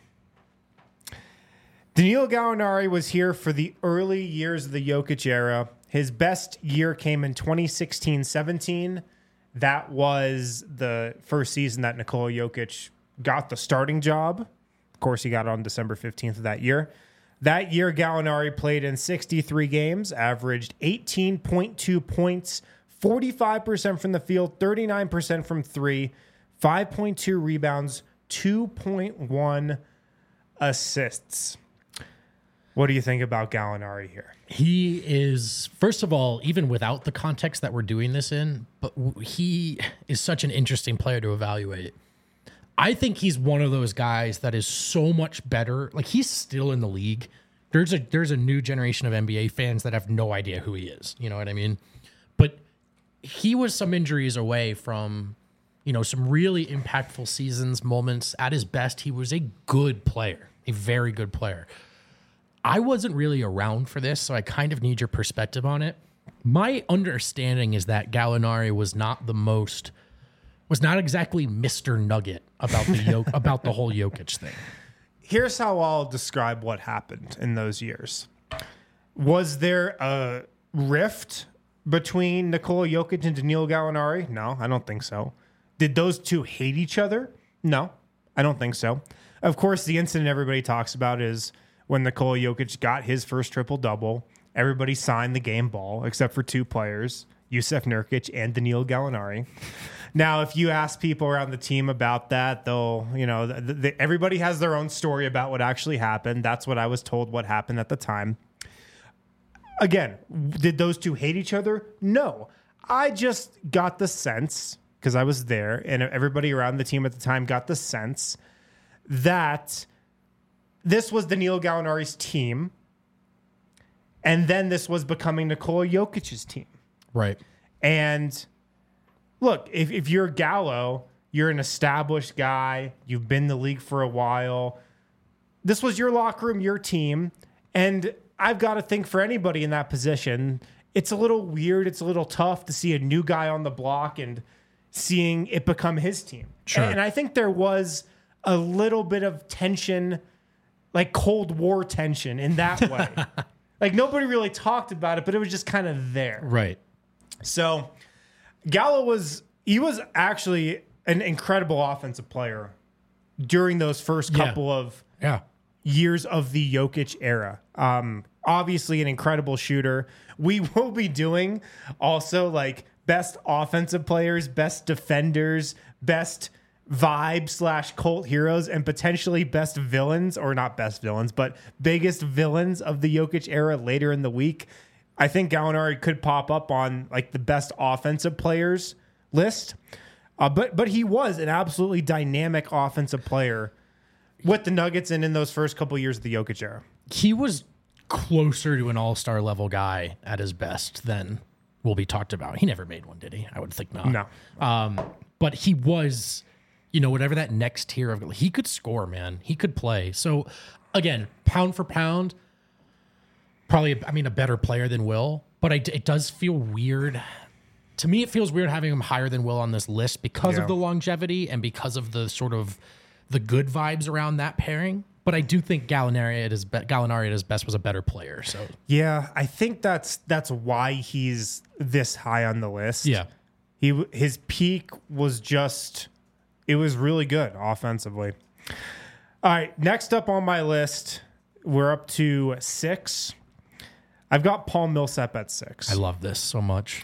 Danilo Gallinari was here for the early years of the Jokic era. His best year came in twenty sixteen seventeen. that was the first season that Nikola Jokic got the starting job. Of course, he got it on December fifteenth of that year. That year, Gallinari played in sixty-three games, averaged eighteen point two points, forty-five percent from the field, thirty-nine percent from three, five point two rebounds, two point one assists. What do you think about Gallinari here? He is, first of all, even without the context that we're doing this in, but he is such an interesting player to evaluate. I think he's one of those guys that is so much better. Like, he's still in the league. There's a there's a new generation of N B A fans that have no idea who he is. You know what I mean? But he was some injuries away from, you know, some really impactful seasons, moments. At his best, he was a good player, a very good player. I wasn't really around for this, so I kind of need your perspective on it. My understanding is that Gallinari was not the most, was not exactly Mister Nugget about the Jok- about the whole Jokic thing. Here's how I'll describe what happened in those years. Was there a rift between Nikola Jokic and Danilo Gallinari? No, I don't think so. Did those two hate each other? No, I don't think so. Of course, the incident everybody talks about is when Nikola Jokic got his first triple-double. Everybody signed the game ball except for two players, Jusuf Nurkic and Danilo Gallinari. Now, if you ask people around the team about that, they'll, you know, the, the, everybody has their own story about what actually happened. That's what I was told what happened at the time. Again, did those two hate each other? No. I just got the sense, because I was there, and everybody around the team at the time got the sense that this was Danilo Gallinari's team, and then this was becoming Nikola Jokic's team. Right. And look, if, if you're Gallo, you're an established guy, you've been in the league for a while. This was your locker room, your team. And I've got to think for anybody in that position, it's a little weird, it's a little tough to see a new guy on the block and seeing it become his team. Sure. And, and I think there was a little bit of tension, like Cold War tension in that way. Like, nobody really talked about it, but it was just kind of there. Right. So Gallo was, he was actually an incredible offensive player during those first Yeah. couple of Yeah. years of the Jokic era. Um, obviously an incredible shooter. We will be doing also like best offensive players, best defenders, best vibe slash cult heroes, and potentially best villains, or not best villains, but biggest villains of the Jokic era later in the week. I think Gallinari could pop up on like the best offensive players list. Uh, but but he was an absolutely dynamic offensive player with the Nuggets and in those first couple years of the Jokic era. He was closer to an all-star level guy at his best than will be talked about. He never made one, did he? I would think not. No. Um, but he was, you know, whatever that next tier of, he could score, man. He could play. So again, pound for pound, probably, I mean, a better player than Will, but I, it does feel weird. To me, it feels weird having him higher than Will on this list because Yeah. of the longevity and because of the sort of the good vibes around that pairing. But I do think Gallinari at his be- Gallinari at his best was a better player. So Yeah, I think that's that's why he's this high on the list. yeah, He his peak was just, it was really good offensively. All right, next up on my list, we're up to six. I've got Paul Millsap at six. I love this so much.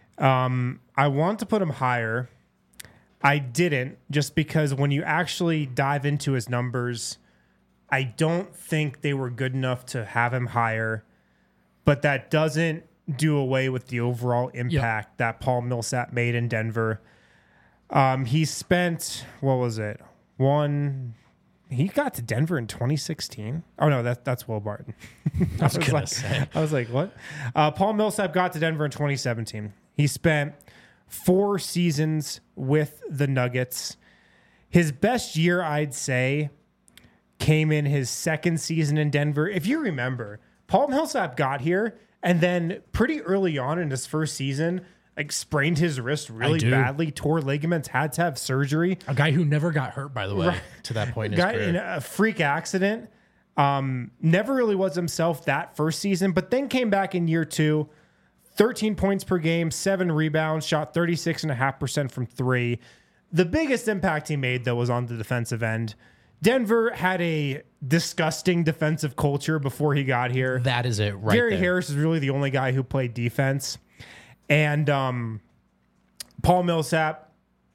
Um, I want to put him higher. I didn't, just because when you actually dive into his numbers, I don't think they were good enough to have him higher. But that doesn't do away with the overall impact that Paul Millsap made in Denver. Um, he spent, what was it? One. He got to Denver in twenty sixteen. Oh no, that that's Will Barton. I was gonna like, say. I was like, what? Uh, Paul Millsap got to Denver in twenty seventeen. He spent four seasons with the Nuggets. His best year, I'd say, came in his second season in Denver. If you remember, Paul Millsap got here and then pretty early on in his first season, like sprained his wrist really do. badly, tore ligaments, had to have surgery. A guy who never got hurt, by the way, Right. to that point in his Got career. in a freak accident. Um, never really was himself that first season, but then came back in year two, thirteen points per game, seven rebounds, shot thirty-six point five percent from three. The biggest impact he made, though, was on the defensive end. Denver had a disgusting defensive culture before he got here. That is it right Gary there. Harris is really the only guy who played defense. And um, Paul Millsap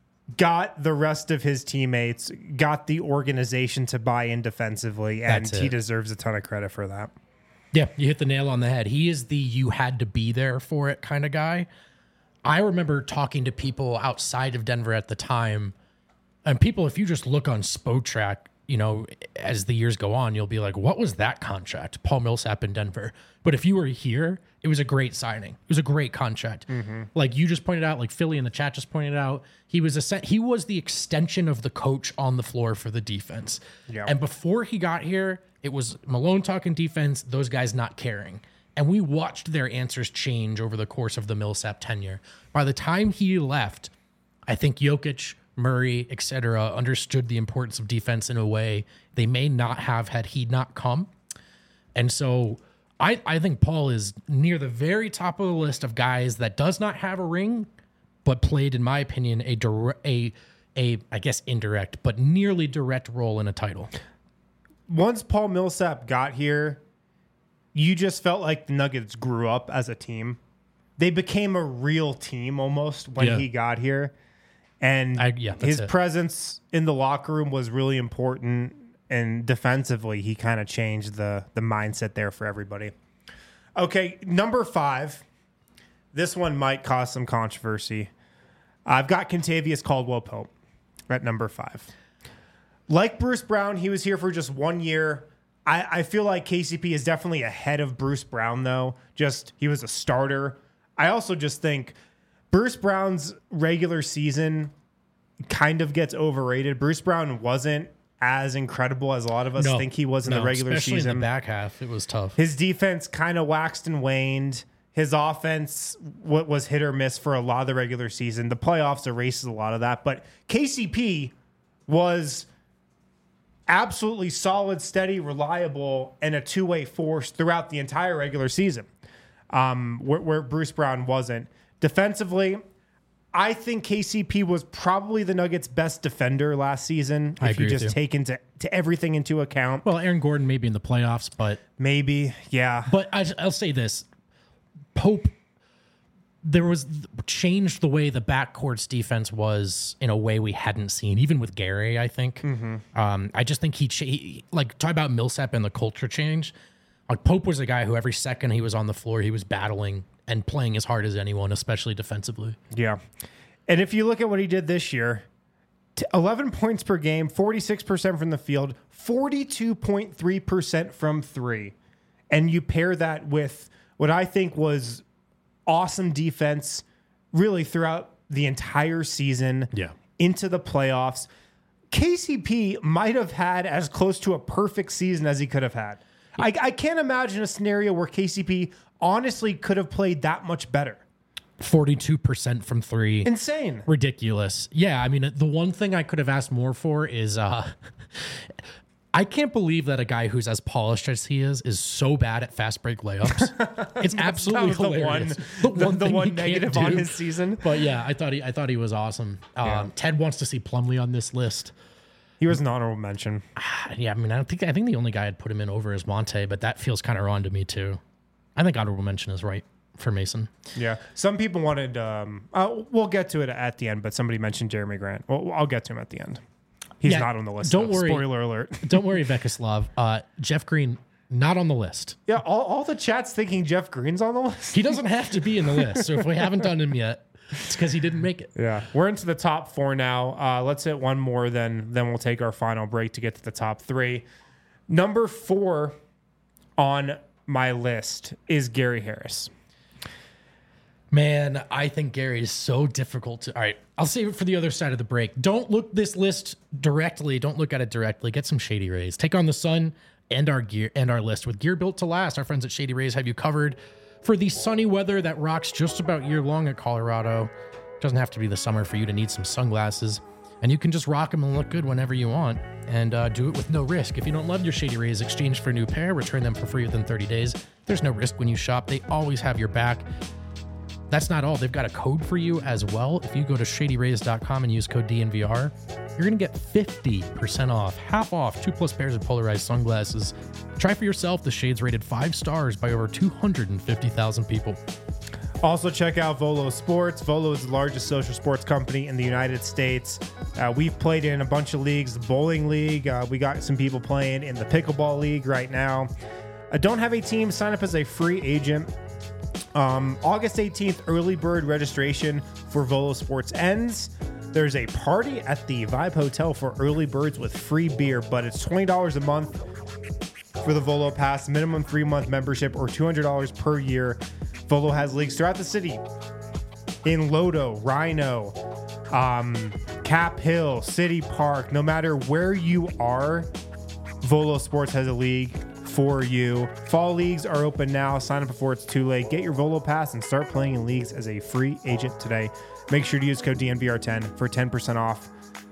got the rest of his teammates, got the organization to buy in defensively, and That's he it. deserves a ton of credit for that. Yeah, you hit the nail on the head. He is the you had to be there for it kind of guy. I remember talking to people outside of Denver at the time, and people, if you just look on Spotrac, you know, as the years go on, you'll be like, what was that contract? Paul Millsap in Denver. But if you were here, it was a great signing. It was a great contract. Mm-hmm. Like you just pointed out, like Philly in the chat just pointed out, he was a he was the extension of the coach on the floor for the defense. Yeah. And before he got here, it was Malone talking defense, those guys not caring. And we watched their answers change over the course of the Millsap tenure. By the time he left, I think Jokic, Murray, et cetera, understood the importance of defense in a way they may not have had he not come. And so I, I think Paul is near the very top of the list of guys that does not have a ring, but played, in my opinion, a direct, a, a I guess indirect, but nearly direct role in a title. Once Paul Millsap got here, you just felt like the Nuggets grew up as a team. They became a real team almost when Yeah. he got here. And I- yeah, that's his it. presence in the locker room was really important. And defensively, he kind of changed the, the mindset there for everybody. Okay, number five. This one might cause some controversy. I've got Kentavious Caldwell-Pope at number five. Like Bruce Brown, he was here for just one year. I, I feel like K C P is definitely ahead of Bruce Brown, though. Just he was a starter. I also just think Bruce Brown's regular season kind of gets overrated. Bruce Brown wasn't as incredible as a lot of us No, think he was in no, the regular especially season. in the back half, it was tough. His defense kind of waxed and waned. His offense what was hit or miss for a lot of the regular season. The playoffs erases a lot of that. But K C P was absolutely solid, steady, reliable, and a two-way force throughout the entire regular season, um, where, where Bruce Brown wasn't. Defensively, I think K C P was probably the Nuggets' best defender last season. I if agree you with just you. take into to everything into account. Well, Aaron Gordon maybe in the playoffs, but Maybe, yeah. but I, I'll say this: Pope, there was changed the way the backcourt's defense was in a way we hadn't seen, even with Gary. I think. Mm-hmm. Um, I just think he, cha- he like talk about Millsap and the culture change. Like Pope was a guy who every second he was on the floor, he was battling and playing as hard as anyone, especially defensively. Yeah. And if you look at what he did this year, t- eleven points per game, forty-six percent from the field, forty-two point three percent from three. And you pair that with what I think was awesome defense really throughout the entire season Yeah. into the playoffs. K C P might have had as close to a perfect season as he could have had. I, I can't imagine a scenario where K C P honestly could have played that much better. forty-two percent from three. Insane. Ridiculous. Yeah, I mean, the one thing I could have asked more for is uh I can't believe that a guy who's as polished as he is is so bad at fast break layups. It's absolutely That was the hilarious. one, the, the thing he one can't negative on do. his season. But yeah, I thought he I thought he was awesome. Um, Yeah. Ted wants to see Plumlee on this list. He was an honorable mention. Yeah, I mean, I don't think I think the only guy I'd put him in over is Monte, but that feels kind of wrong to me too. I think honorable mention is right for Mason. Yeah. Some people wanted, um, uh, we'll get to it at the end, but somebody mentioned Jeremy Grant. Well, I'll get to him at the end. He's Yeah, not on the list. don't though. worry. Spoiler alert. Don't worry, Vekislav. Uh, Jeff Green not on the list. Yeah, all, all the chat's thinking Jeff Green's on the list. He doesn't have to be in the list. So if we haven't done him yet, it's because he didn't make it. Yeah. We're into the top four now. Uh, let's hit one more, then then we'll take our final break to get to the top three. Number four on my list is Gary Harris. Man, I think Gary is so difficult to. All right, I'll save it for the other side of the break. Don't look this list directly. Don't look at it directly. Get some Shady Rays. Take on the sun and our gear and our list with gear built to last. Our friends at Shady Rays have you covered for the sunny weather that rocks just about year long at Colorado. Doesn't have to be the summer for you to need some sunglasses, and you can just rock them and look good whenever you want, and uh, do it with no risk. If you don't love your Shady Rays, exchange for a new pair, return them for free within thirty days. There's no risk when you shop. They always have your back. That's not all. They've got a code for you as well. If you go to shady rays dot com and use code D N V R, you're going to get fifty percent off, half off, two plus pairs of polarized sunglasses. Try for yourself. The Shades rated five stars by over two hundred fifty thousand people. Also, check out Volo Sports. Volo is the largest social sports company in the United States. Uh, we've played in a bunch of leagues, the bowling league. Uh, we got some people playing in the pickleball league right now. Uh, don't have a team? Sign up as a free agent. Um, August eighteenth, early bird registration for Volo Sports ends. There's a party at the Vibe Hotel for early birds with free beer, but it's twenty dollars a month for the Volo Pass, minimum three-month membership, or two hundred dollars per year. Volo has leagues throughout the city in Lodo, Rhino, um, Cap Hill, City Park. No matter where you are, Volo Sports has a league for you. Fall leagues are open now. Sign up before it's too late. Get your Volo Pass and start playing in leagues as a free agent today. Make sure to use code D N V R ten for ten percent off.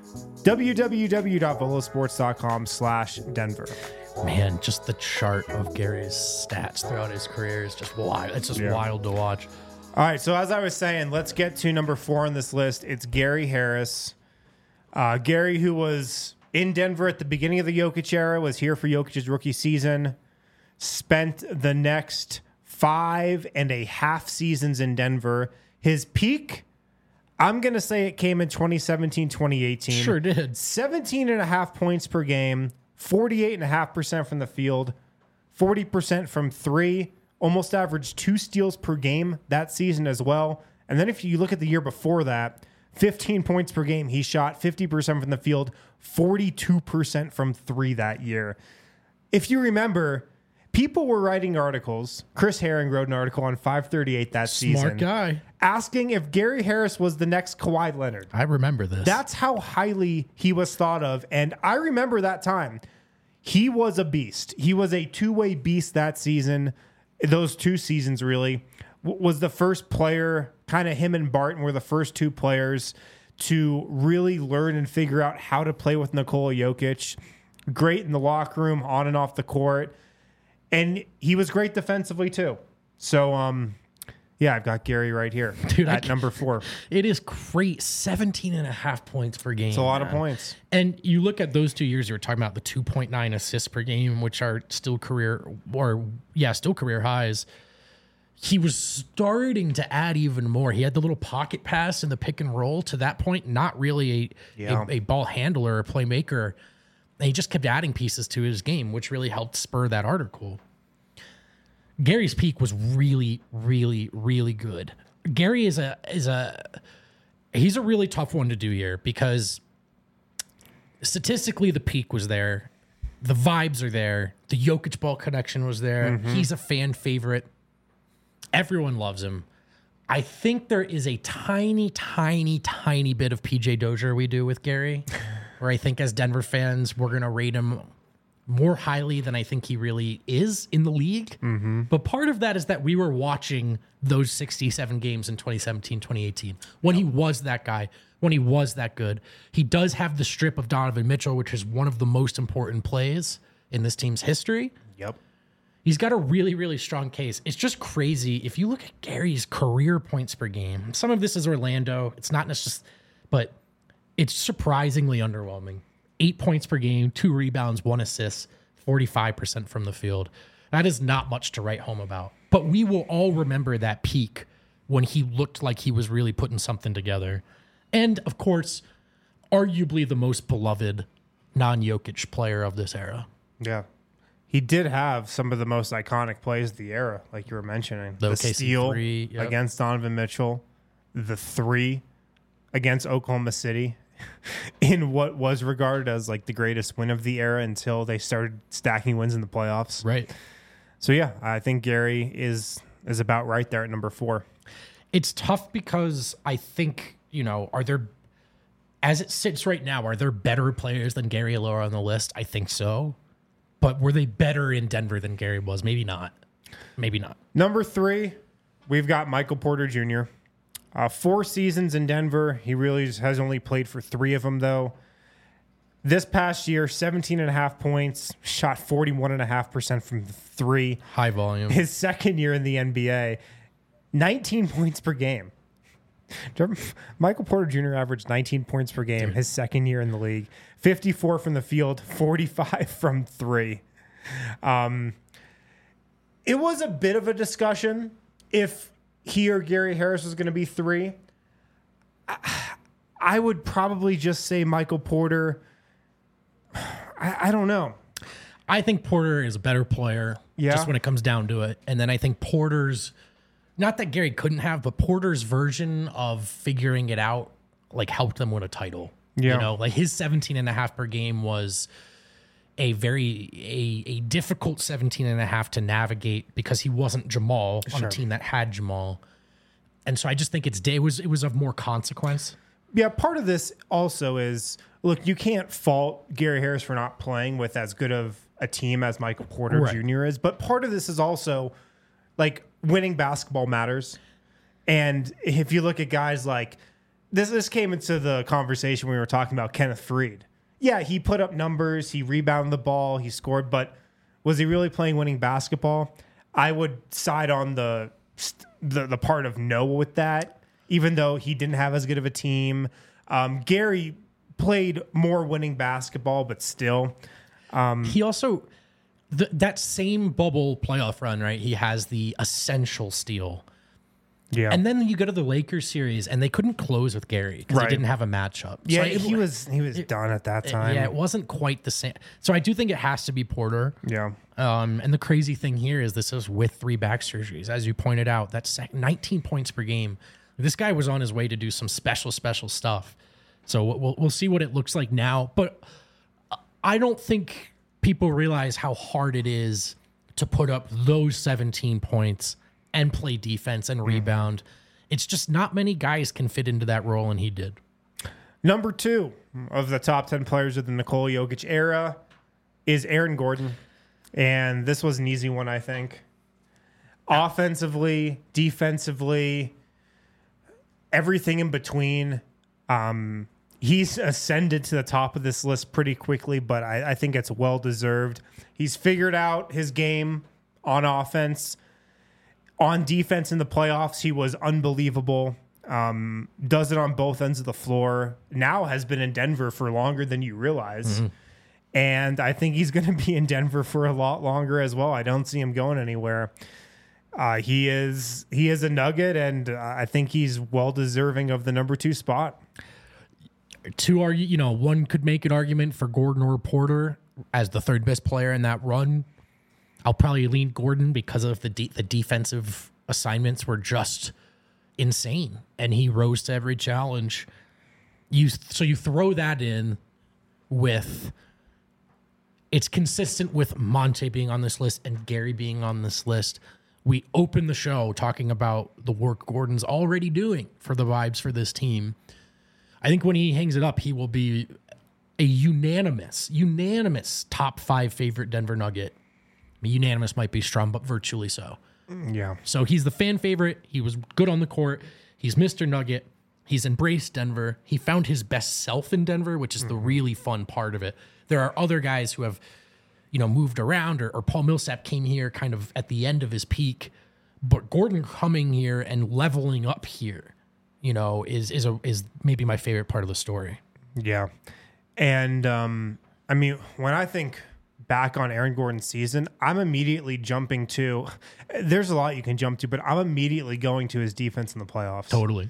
w w w dot volo sports dot com slash Denver. Man, just the chart of Gary's stats throughout his career is just wild. It's just Yeah. wild to watch. All right, so as I was saying, let's get to number four on this list. It's Gary Harris. Uh, Gary, who was in Denver at the beginning of the Jokic era, was here for Jokic's rookie season, spent the next five and a half seasons in Denver. His peak, I'm going to say it came in twenty seventeen, twenty eighteen. Sure did. seventeen and a half points per game, forty-eight and a half percent from the field, forty percent from three, almost averaged two steals per game that season as well. And then if you look at the year before that, fifteen points per game, he shot fifty percent from the field, forty-two percent from three that year. If you remember, people were writing articles. Chris Herring wrote an article on five thirty-eight that season. Smart guy. Asking if Gary Harris was the next Kawhi Leonard. I remember this. That's how highly he was thought of. And I remember that time. He was a beast. He was a two-way beast that season. Those two seasons, really. W- was the first player, kind of him and Barton were the first two players to really learn and figure out how to play with Nikola Jokic. Great in the locker room, on and off the court. And he was great defensively, too. So, um... yeah, I've got Gary right here. Dude, I at can't- number four. It is great. seventeen and a half points per game. It's a lot of man. points. And you look at those two years, you were talking about the two point nine assists per game, which are still career, or yeah, still career highs. He was starting to add even more. He had the little pocket pass and the pick and roll. To that point, not really a, Yeah. a, a ball handler or playmaker. And he just kept adding pieces to his game, which really helped spur that article. Gary's peak was really, really, really good. Gary is a is a he's a really tough one to do here because statistically the peak was there, the vibes are there, the Jokic ball connection was there. Mm-hmm. He's a fan favorite. Everyone loves him. I think there is a tiny, tiny, tiny bit of P J Dozier we do with Gary, where I think as Denver fans we're gonna rate him more highly than I think he really is in the league. Mm-hmm. But part of that is that we were watching those sixty-seven games in twenty seventeen, twenty eighteen when he was that guy, when he was that good. He does have the strip of Donovan Mitchell, which is one of the most important plays in this team's history. Yep. He's got a really, really strong case. It's just crazy. If you look at Gary's career points per game, some of this is Orlando. It's not necessarily, but it's surprisingly underwhelming. Eight points per game, two rebounds, one assist, forty-five percent from the field. That is not much to write home about. But we will all remember that peak when he looked like he was really putting something together. And, of course, arguably the most beloved non-Jokic player of this era. Yeah. He did have some of the most iconic plays of the era, like you were mentioning. The The, O K C steal three, yep. against Donovan Mitchell, the three against Oklahoma City in what was regarded as like the greatest win of the era until they started stacking wins in the playoffs. Right. So yeah, I think Gary is is about right there at number four. It's tough because I think, you know, are there, as it sits right now, are there better players than Gary Alora on the list? I think so. But were they better in Denver than Gary was? Maybe not. Maybe not. Number three, we've got Michael Porter Junior Uh, four seasons in Denver. He really just has only played for three of them, though. This past year, seventeen and a half points, shot forty-one and a half percent from three. High volume. His second year in the N B A, nineteen points per game. Michael Porter Junior averaged nineteen points per game Dude. his second year in the league. fifty-four from the field, forty-five from three. Um, it was a bit of a discussion if he or Gary Harris was going to be three. I, I would probably just say Michael Porter. I, I don't know. I think Porter is a better player yeah. just when it comes down to it. And then I think Porter's, not that Gary couldn't have, but Porter's version of figuring it out like helped them win a title. Yeah. You know, like his seventeen and a half per game was a very, a, a difficult seventeen and a half to navigate because he wasn't Jamal on sure. a team that had Jamal. And so I just think it's day was, it was of more consequence. Yeah. Part of this also is, look, you can't fault Gary Harris for not playing with as good of a team as Michael Porter right. Junior is. But part of this is also like winning basketball matters. And if you look at guys like this, this came into the conversation when we were talking about Kenneth Faried. Yeah, he put up numbers, he rebounded the ball, he scored, but was he really playing winning basketball? I would side on the the, the part of no with that, even though he didn't have as good of a team. Um, Gary played more winning basketball, but still. Um, he also, th- that same bubble playoff run, right? He has the essential steal. Yeah. And then you go to the Lakers series, and they couldn't close with Gary because right. he didn't have a matchup. Yeah, so it, he was he was it, done at that time. Yeah, it wasn't quite the same. So I do think it has to be Porter. Yeah. Um, and the crazy thing here is this is with three back surgeries. As you pointed out, that's nineteen points per game. This guy was on his way to do some special, special stuff. So we'll we'll see what it looks like now. But I don't think people realize how hard it is to put up those seventeen points and play defense and rebound. Mm. It's just not many guys can fit into that role, and he did. Number two of the top ten players of the Nikola Jokic era is Aaron Gordon. And this was an easy one, I think. Offensively, defensively, everything in between. Um, he's ascended to the top of this list pretty quickly, but I, I think it's well-deserved. He's figured out his game on offense. On defense in the playoffs, he was unbelievable. Um, does it on both ends of the floor. Now has been in Denver for longer than you realize. Mm-hmm. And I think he's going to be in Denver for a lot longer as well. I don't see him going anywhere. Uh, he is he is a Nugget, and uh, I think he's well deserving of the number two spot. To argue, you know, one could make an argument for Gordon or Porter as the third best player in that run. I'll probably lean Gordon because of the de- the defensive assignments were just insane, and he rose to every challenge. You so you throw that in with it's consistent with Monte being on this list and Gary being on this list. We open the show talking about the work Gordon's already doing for the vibes for this team. I think when he hangs it up, he will be a unanimous, unanimous top five favorite Denver Nugget. Unanimous might be strong, but virtually so. Yeah. So he's the fan favorite. He was good on the court. He's Mister Nugget. He's embraced Denver. He found his best self in Denver, which is mm-hmm. the really fun part of it. There are other guys who have, you know, moved around, or, or Paul Millsap came here kind of at the end of his peak, but Gordon coming here and leveling up here, you know, is is a is maybe my favorite part of the story. Yeah, and um, I mean, when I think back on Aaron Gordon's season, I'm immediately jumping to. There's a lot you can jump to, but I'm immediately going to his defense in the playoffs. Totally,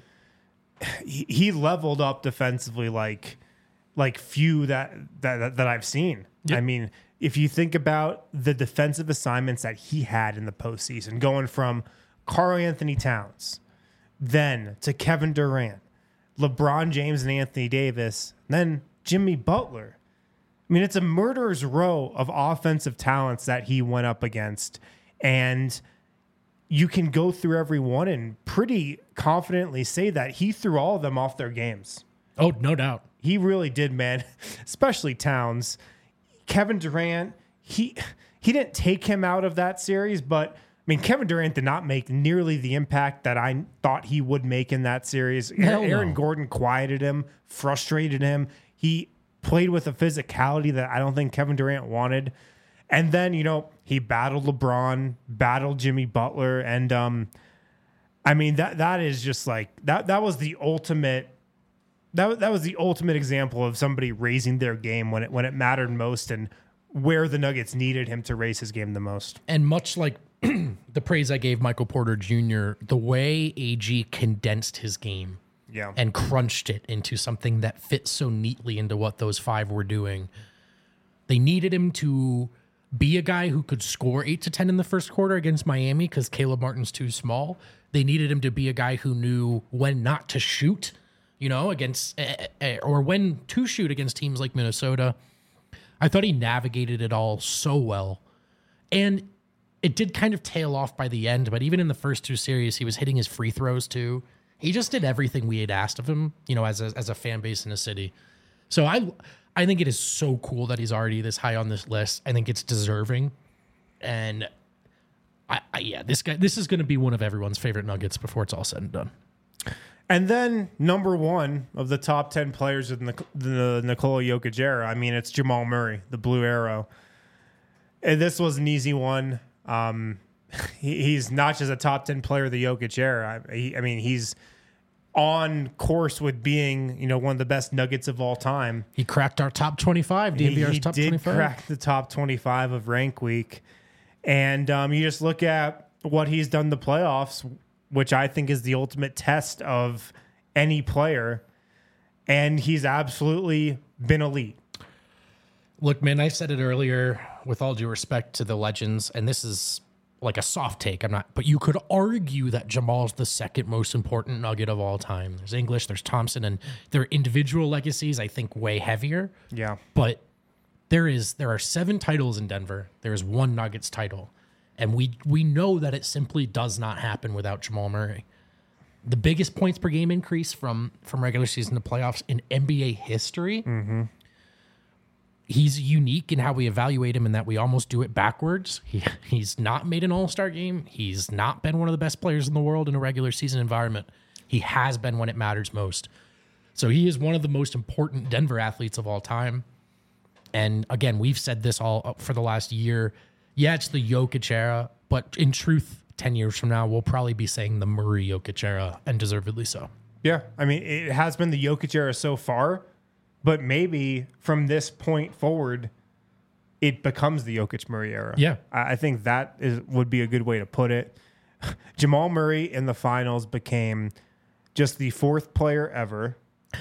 he, he leveled up defensively like like few that that that I've seen. Yep. I mean, if you think about the defensive assignments that he had in the postseason, going from Karl Anthony Towns, then to Kevin Durant, LeBron James and Anthony Davis, then Jimmy Butler. I mean, it's a murderer's row of offensive talents that he went up against. And you can go through every one and pretty confidently say that he threw all of them off their games. Oh, no doubt. He really did, man, especially Towns. Kevin Durant, he he didn't take him out of that series, but I mean, Kevin Durant did not make nearly the impact that I thought he would make in that series. Hell Aaron no. Gordon quieted him, frustrated him. He played with a physicality that I don't think Kevin Durant wanted. And then, you know, he battled LeBron, battled Jimmy Butler, and um, I mean, that that is just like that that was the ultimate that that was the ultimate example of somebody raising their game when it when it mattered most and where the Nuggets needed him to raise his game the most. And much like the praise I gave Michael Porter Junior, the way A G condensed his game Yeah. and crunched it into something that fits so neatly into what those five were doing. They needed him to be a guy who could score eight to ten in the first quarter against Miami because Caleb Martin's too small. They needed him to be a guy who knew when not to shoot, you know, against eh, eh, or when to shoot against teams like Minnesota. I thought he navigated it all so well. And it did kind of tail off by the end, but even in the first two series, he was hitting his free throws too. He just did everything we had asked of him, you know, as a, as a fan base in a city. So I I think it is so cool that he's already this high on this list. I think it's deserving. And I, I yeah, this guy this is going to be one of everyone's favorite Nuggets before it's all said and done. And then number one of the top ten players in the, the Nikola Jokic era, I mean, it's Jamal Murray, the Blue Arrow. And this was an easy one. Um, he, he's not just a top ten player of the Jokic era. I, he, I mean, he's on course with being, you know, one of the best Nuggets of all time. He cracked our top twenty-five, D N V R's he top did twenty-five. crack the top twenty-five of Rank Week. And um, you just look at what he's done in the playoffs, which I think is the ultimate test of any player. And he's absolutely been elite. Look, man, I said it earlier with all due respect to the legends, and this is like a soft take. I'm not, but you could argue that Jamal's the second most important Nugget of all time. There's English, there's Thompson, and their individual legacies, I think, way heavier. Yeah. But there is there are seven titles in Denver. There is one Nuggets title. And we we know that it simply does not happen without Jamal Murray. The biggest points per game increase from, from regular season to playoffs in N B A history. Mm-hmm. He's unique in how we evaluate him in that we almost do it backwards. He He's not made an all-star game. He's not been one of the best players in the world in a regular season environment. He has been when it matters most. So he is one of the most important Denver athletes of all time. And again, we've said this all for the last year. Yeah, it's the Jokic era, but in truth, ten years from now, we'll probably be saying the Murray Jokic era, and deservedly so. Yeah. I mean, it has been the Jokic era so far, but maybe from this point forward, it becomes the Jokic Murray era. Yeah. I I think that is would be a good way to put it. Jamal Murray in the finals became just the fourth player ever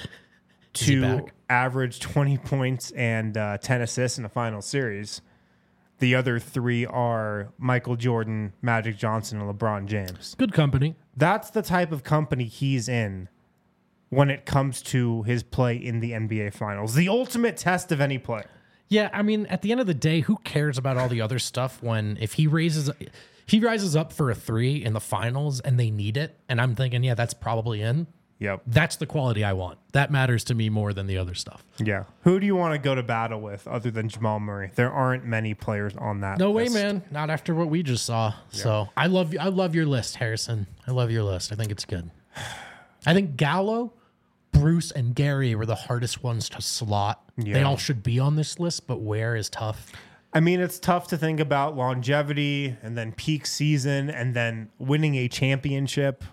he to back? average twenty points and uh, ten assists in a final series. The other three are Michael Jordan, Magic Johnson, and LeBron James. Good company. That's the type of company he's in when it comes to his play in the N B A Finals. The ultimate test of any player. Yeah, I mean, at the end of the day, who cares about all the other stuff when if he raises he rises up for a three in the finals and they need it, and I'm thinking, yeah, that's probably in. Yep. That's the quality I want. That matters to me more than the other stuff. Yeah. Who do you want to go to battle with other than Jamal Murray? There aren't many players on that No way, list. man. Not after what we just saw. So I love I love your list, Harrison. I love your list. I think it's good. I think Gallo, Bruce, and Gary were the hardest ones to slot. Yeah. They all should be on this list, but where is tough. I mean, it's tough to think about longevity and then peak season and then winning a championship.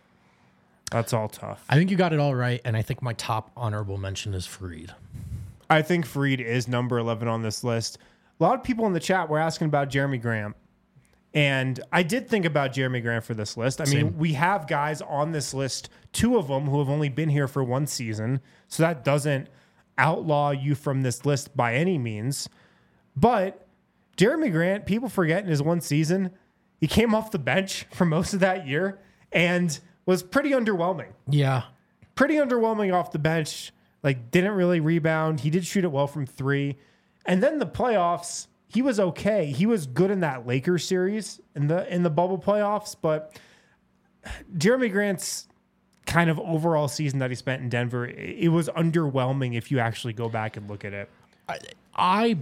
That's all tough. I think you got it all right, and I think my top honorable mention is Fareed. I think Fareed is number eleven on this list. A lot of people in the chat were asking about Jeremy Grant. And I did think about Jeremy Grant for this list. I mean, Same. we have guys on this list, two of them who have only been here for one season. So that doesn't outlaw you from this list by any means. But Jeremy Grant, people forget in his one season, he came off the bench for most of that year and was pretty underwhelming. Yeah. Pretty underwhelming off the bench. Like, didn't really rebound. He did shoot it well from three. And then the playoffs, he was okay. He was good in that Lakers series in the in the bubble playoffs. But Jeremy Grant's kind of overall season that he spent in Denver, it was underwhelming if you actually go back and look at it. I, I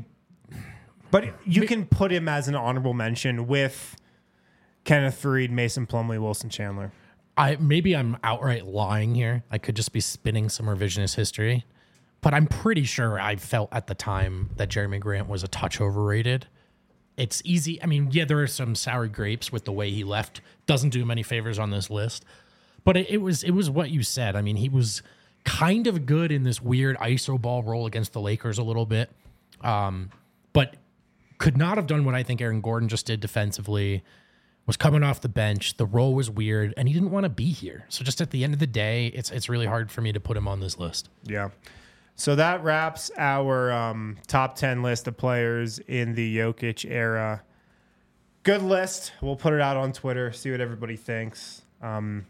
But you can put him as an honorable mention with Kenneth Faried, Mason Plumlee, Wilson Chandler. I maybe I'm outright lying here. I could just be spinning some revisionist history, but I'm pretty sure I felt at the time that Jeremy Grant was a touch overrated. it's easy. I mean, yeah, there are some sour grapes with the way he left. Doesn't do him any favors on this list. But it, it was it was what you said. I mean, he was kind of good in this weird iso ball role against the Lakers a little bit. Um, but could not have done what I think Aaron Gordon just did defensively. Was coming off the bench. The role was weird, and he didn't want to be here. So just at the end of the day, it's it's really hard for me to put him on this list. Yeah. So that wraps our um, top ten list of players in the Jokic era. Good list. We'll put it out on Twitter, see what everybody thinks. Um,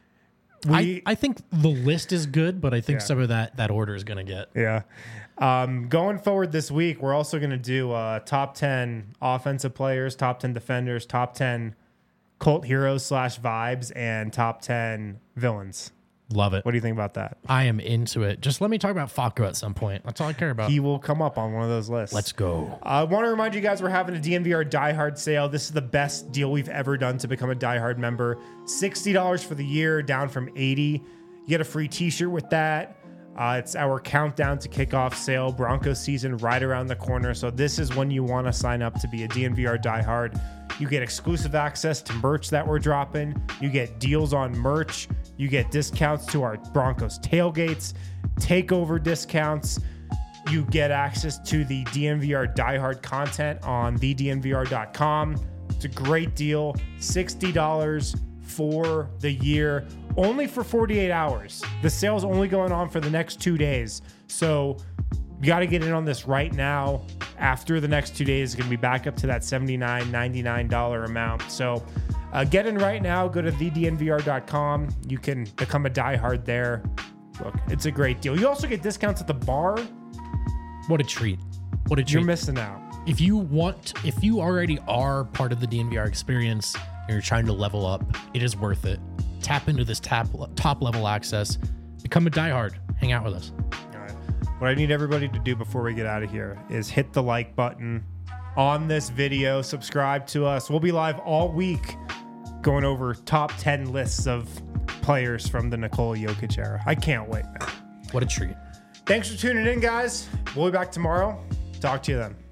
we, I, I think the list is good, but I think Yeah. some of that that order is going to get. Yeah. Um, going forward this week, we're also going to do uh, top ten offensive players, top ten defenders, top ten cult heroes slash vibes, and top ten villains. Love it. What do you think about that? I am into it. Just let me talk about Facu at some point. That's all I care about. He will come up on one of those lists. Let's go. I want to remind you guys we're having a D N V R Die Hard sale. This is the best deal we've ever done to become a Die Hard member. sixty dollars for the year, down from eighty dollars. You get a free t-shirt with that. Uh, it's our countdown to kickoff sale. Broncos season right around the corner. So this is when you want to sign up to be a D N V R Die Hard. You get exclusive access to merch that we're dropping. You get deals on merch. You get discounts to our Broncos tailgates, takeover discounts. You get access to the D N V R Die Hard content on the D N V R dot com. It's a great deal. sixty dollars for the year, only for forty-eight hours. The sale's only going on for the next two days. So you got to get in on this right now. After the next two days, it's going to be back up to that seventy-nine, ninety-nine dollars amount. So uh, get in right now. Go to the D N V R dot com. You can become a diehard there. Look, it's a great deal. You also get discounts at the bar. What a treat. What a treat. You're missing out. If you want, if you already are part of the D N V R experience and you're trying to level up, it is worth it. Tap into this tap, top level access. Become a diehard. Hang out with us. All right. What I need everybody to do before we get out of here is hit the like button on this video. Subscribe to us. We'll be live all week going over top ten lists of players from the Nikola Jokic era. I can't wait, man. What a treat. Thanks for tuning in, guys. We'll be back tomorrow. Talk to you then.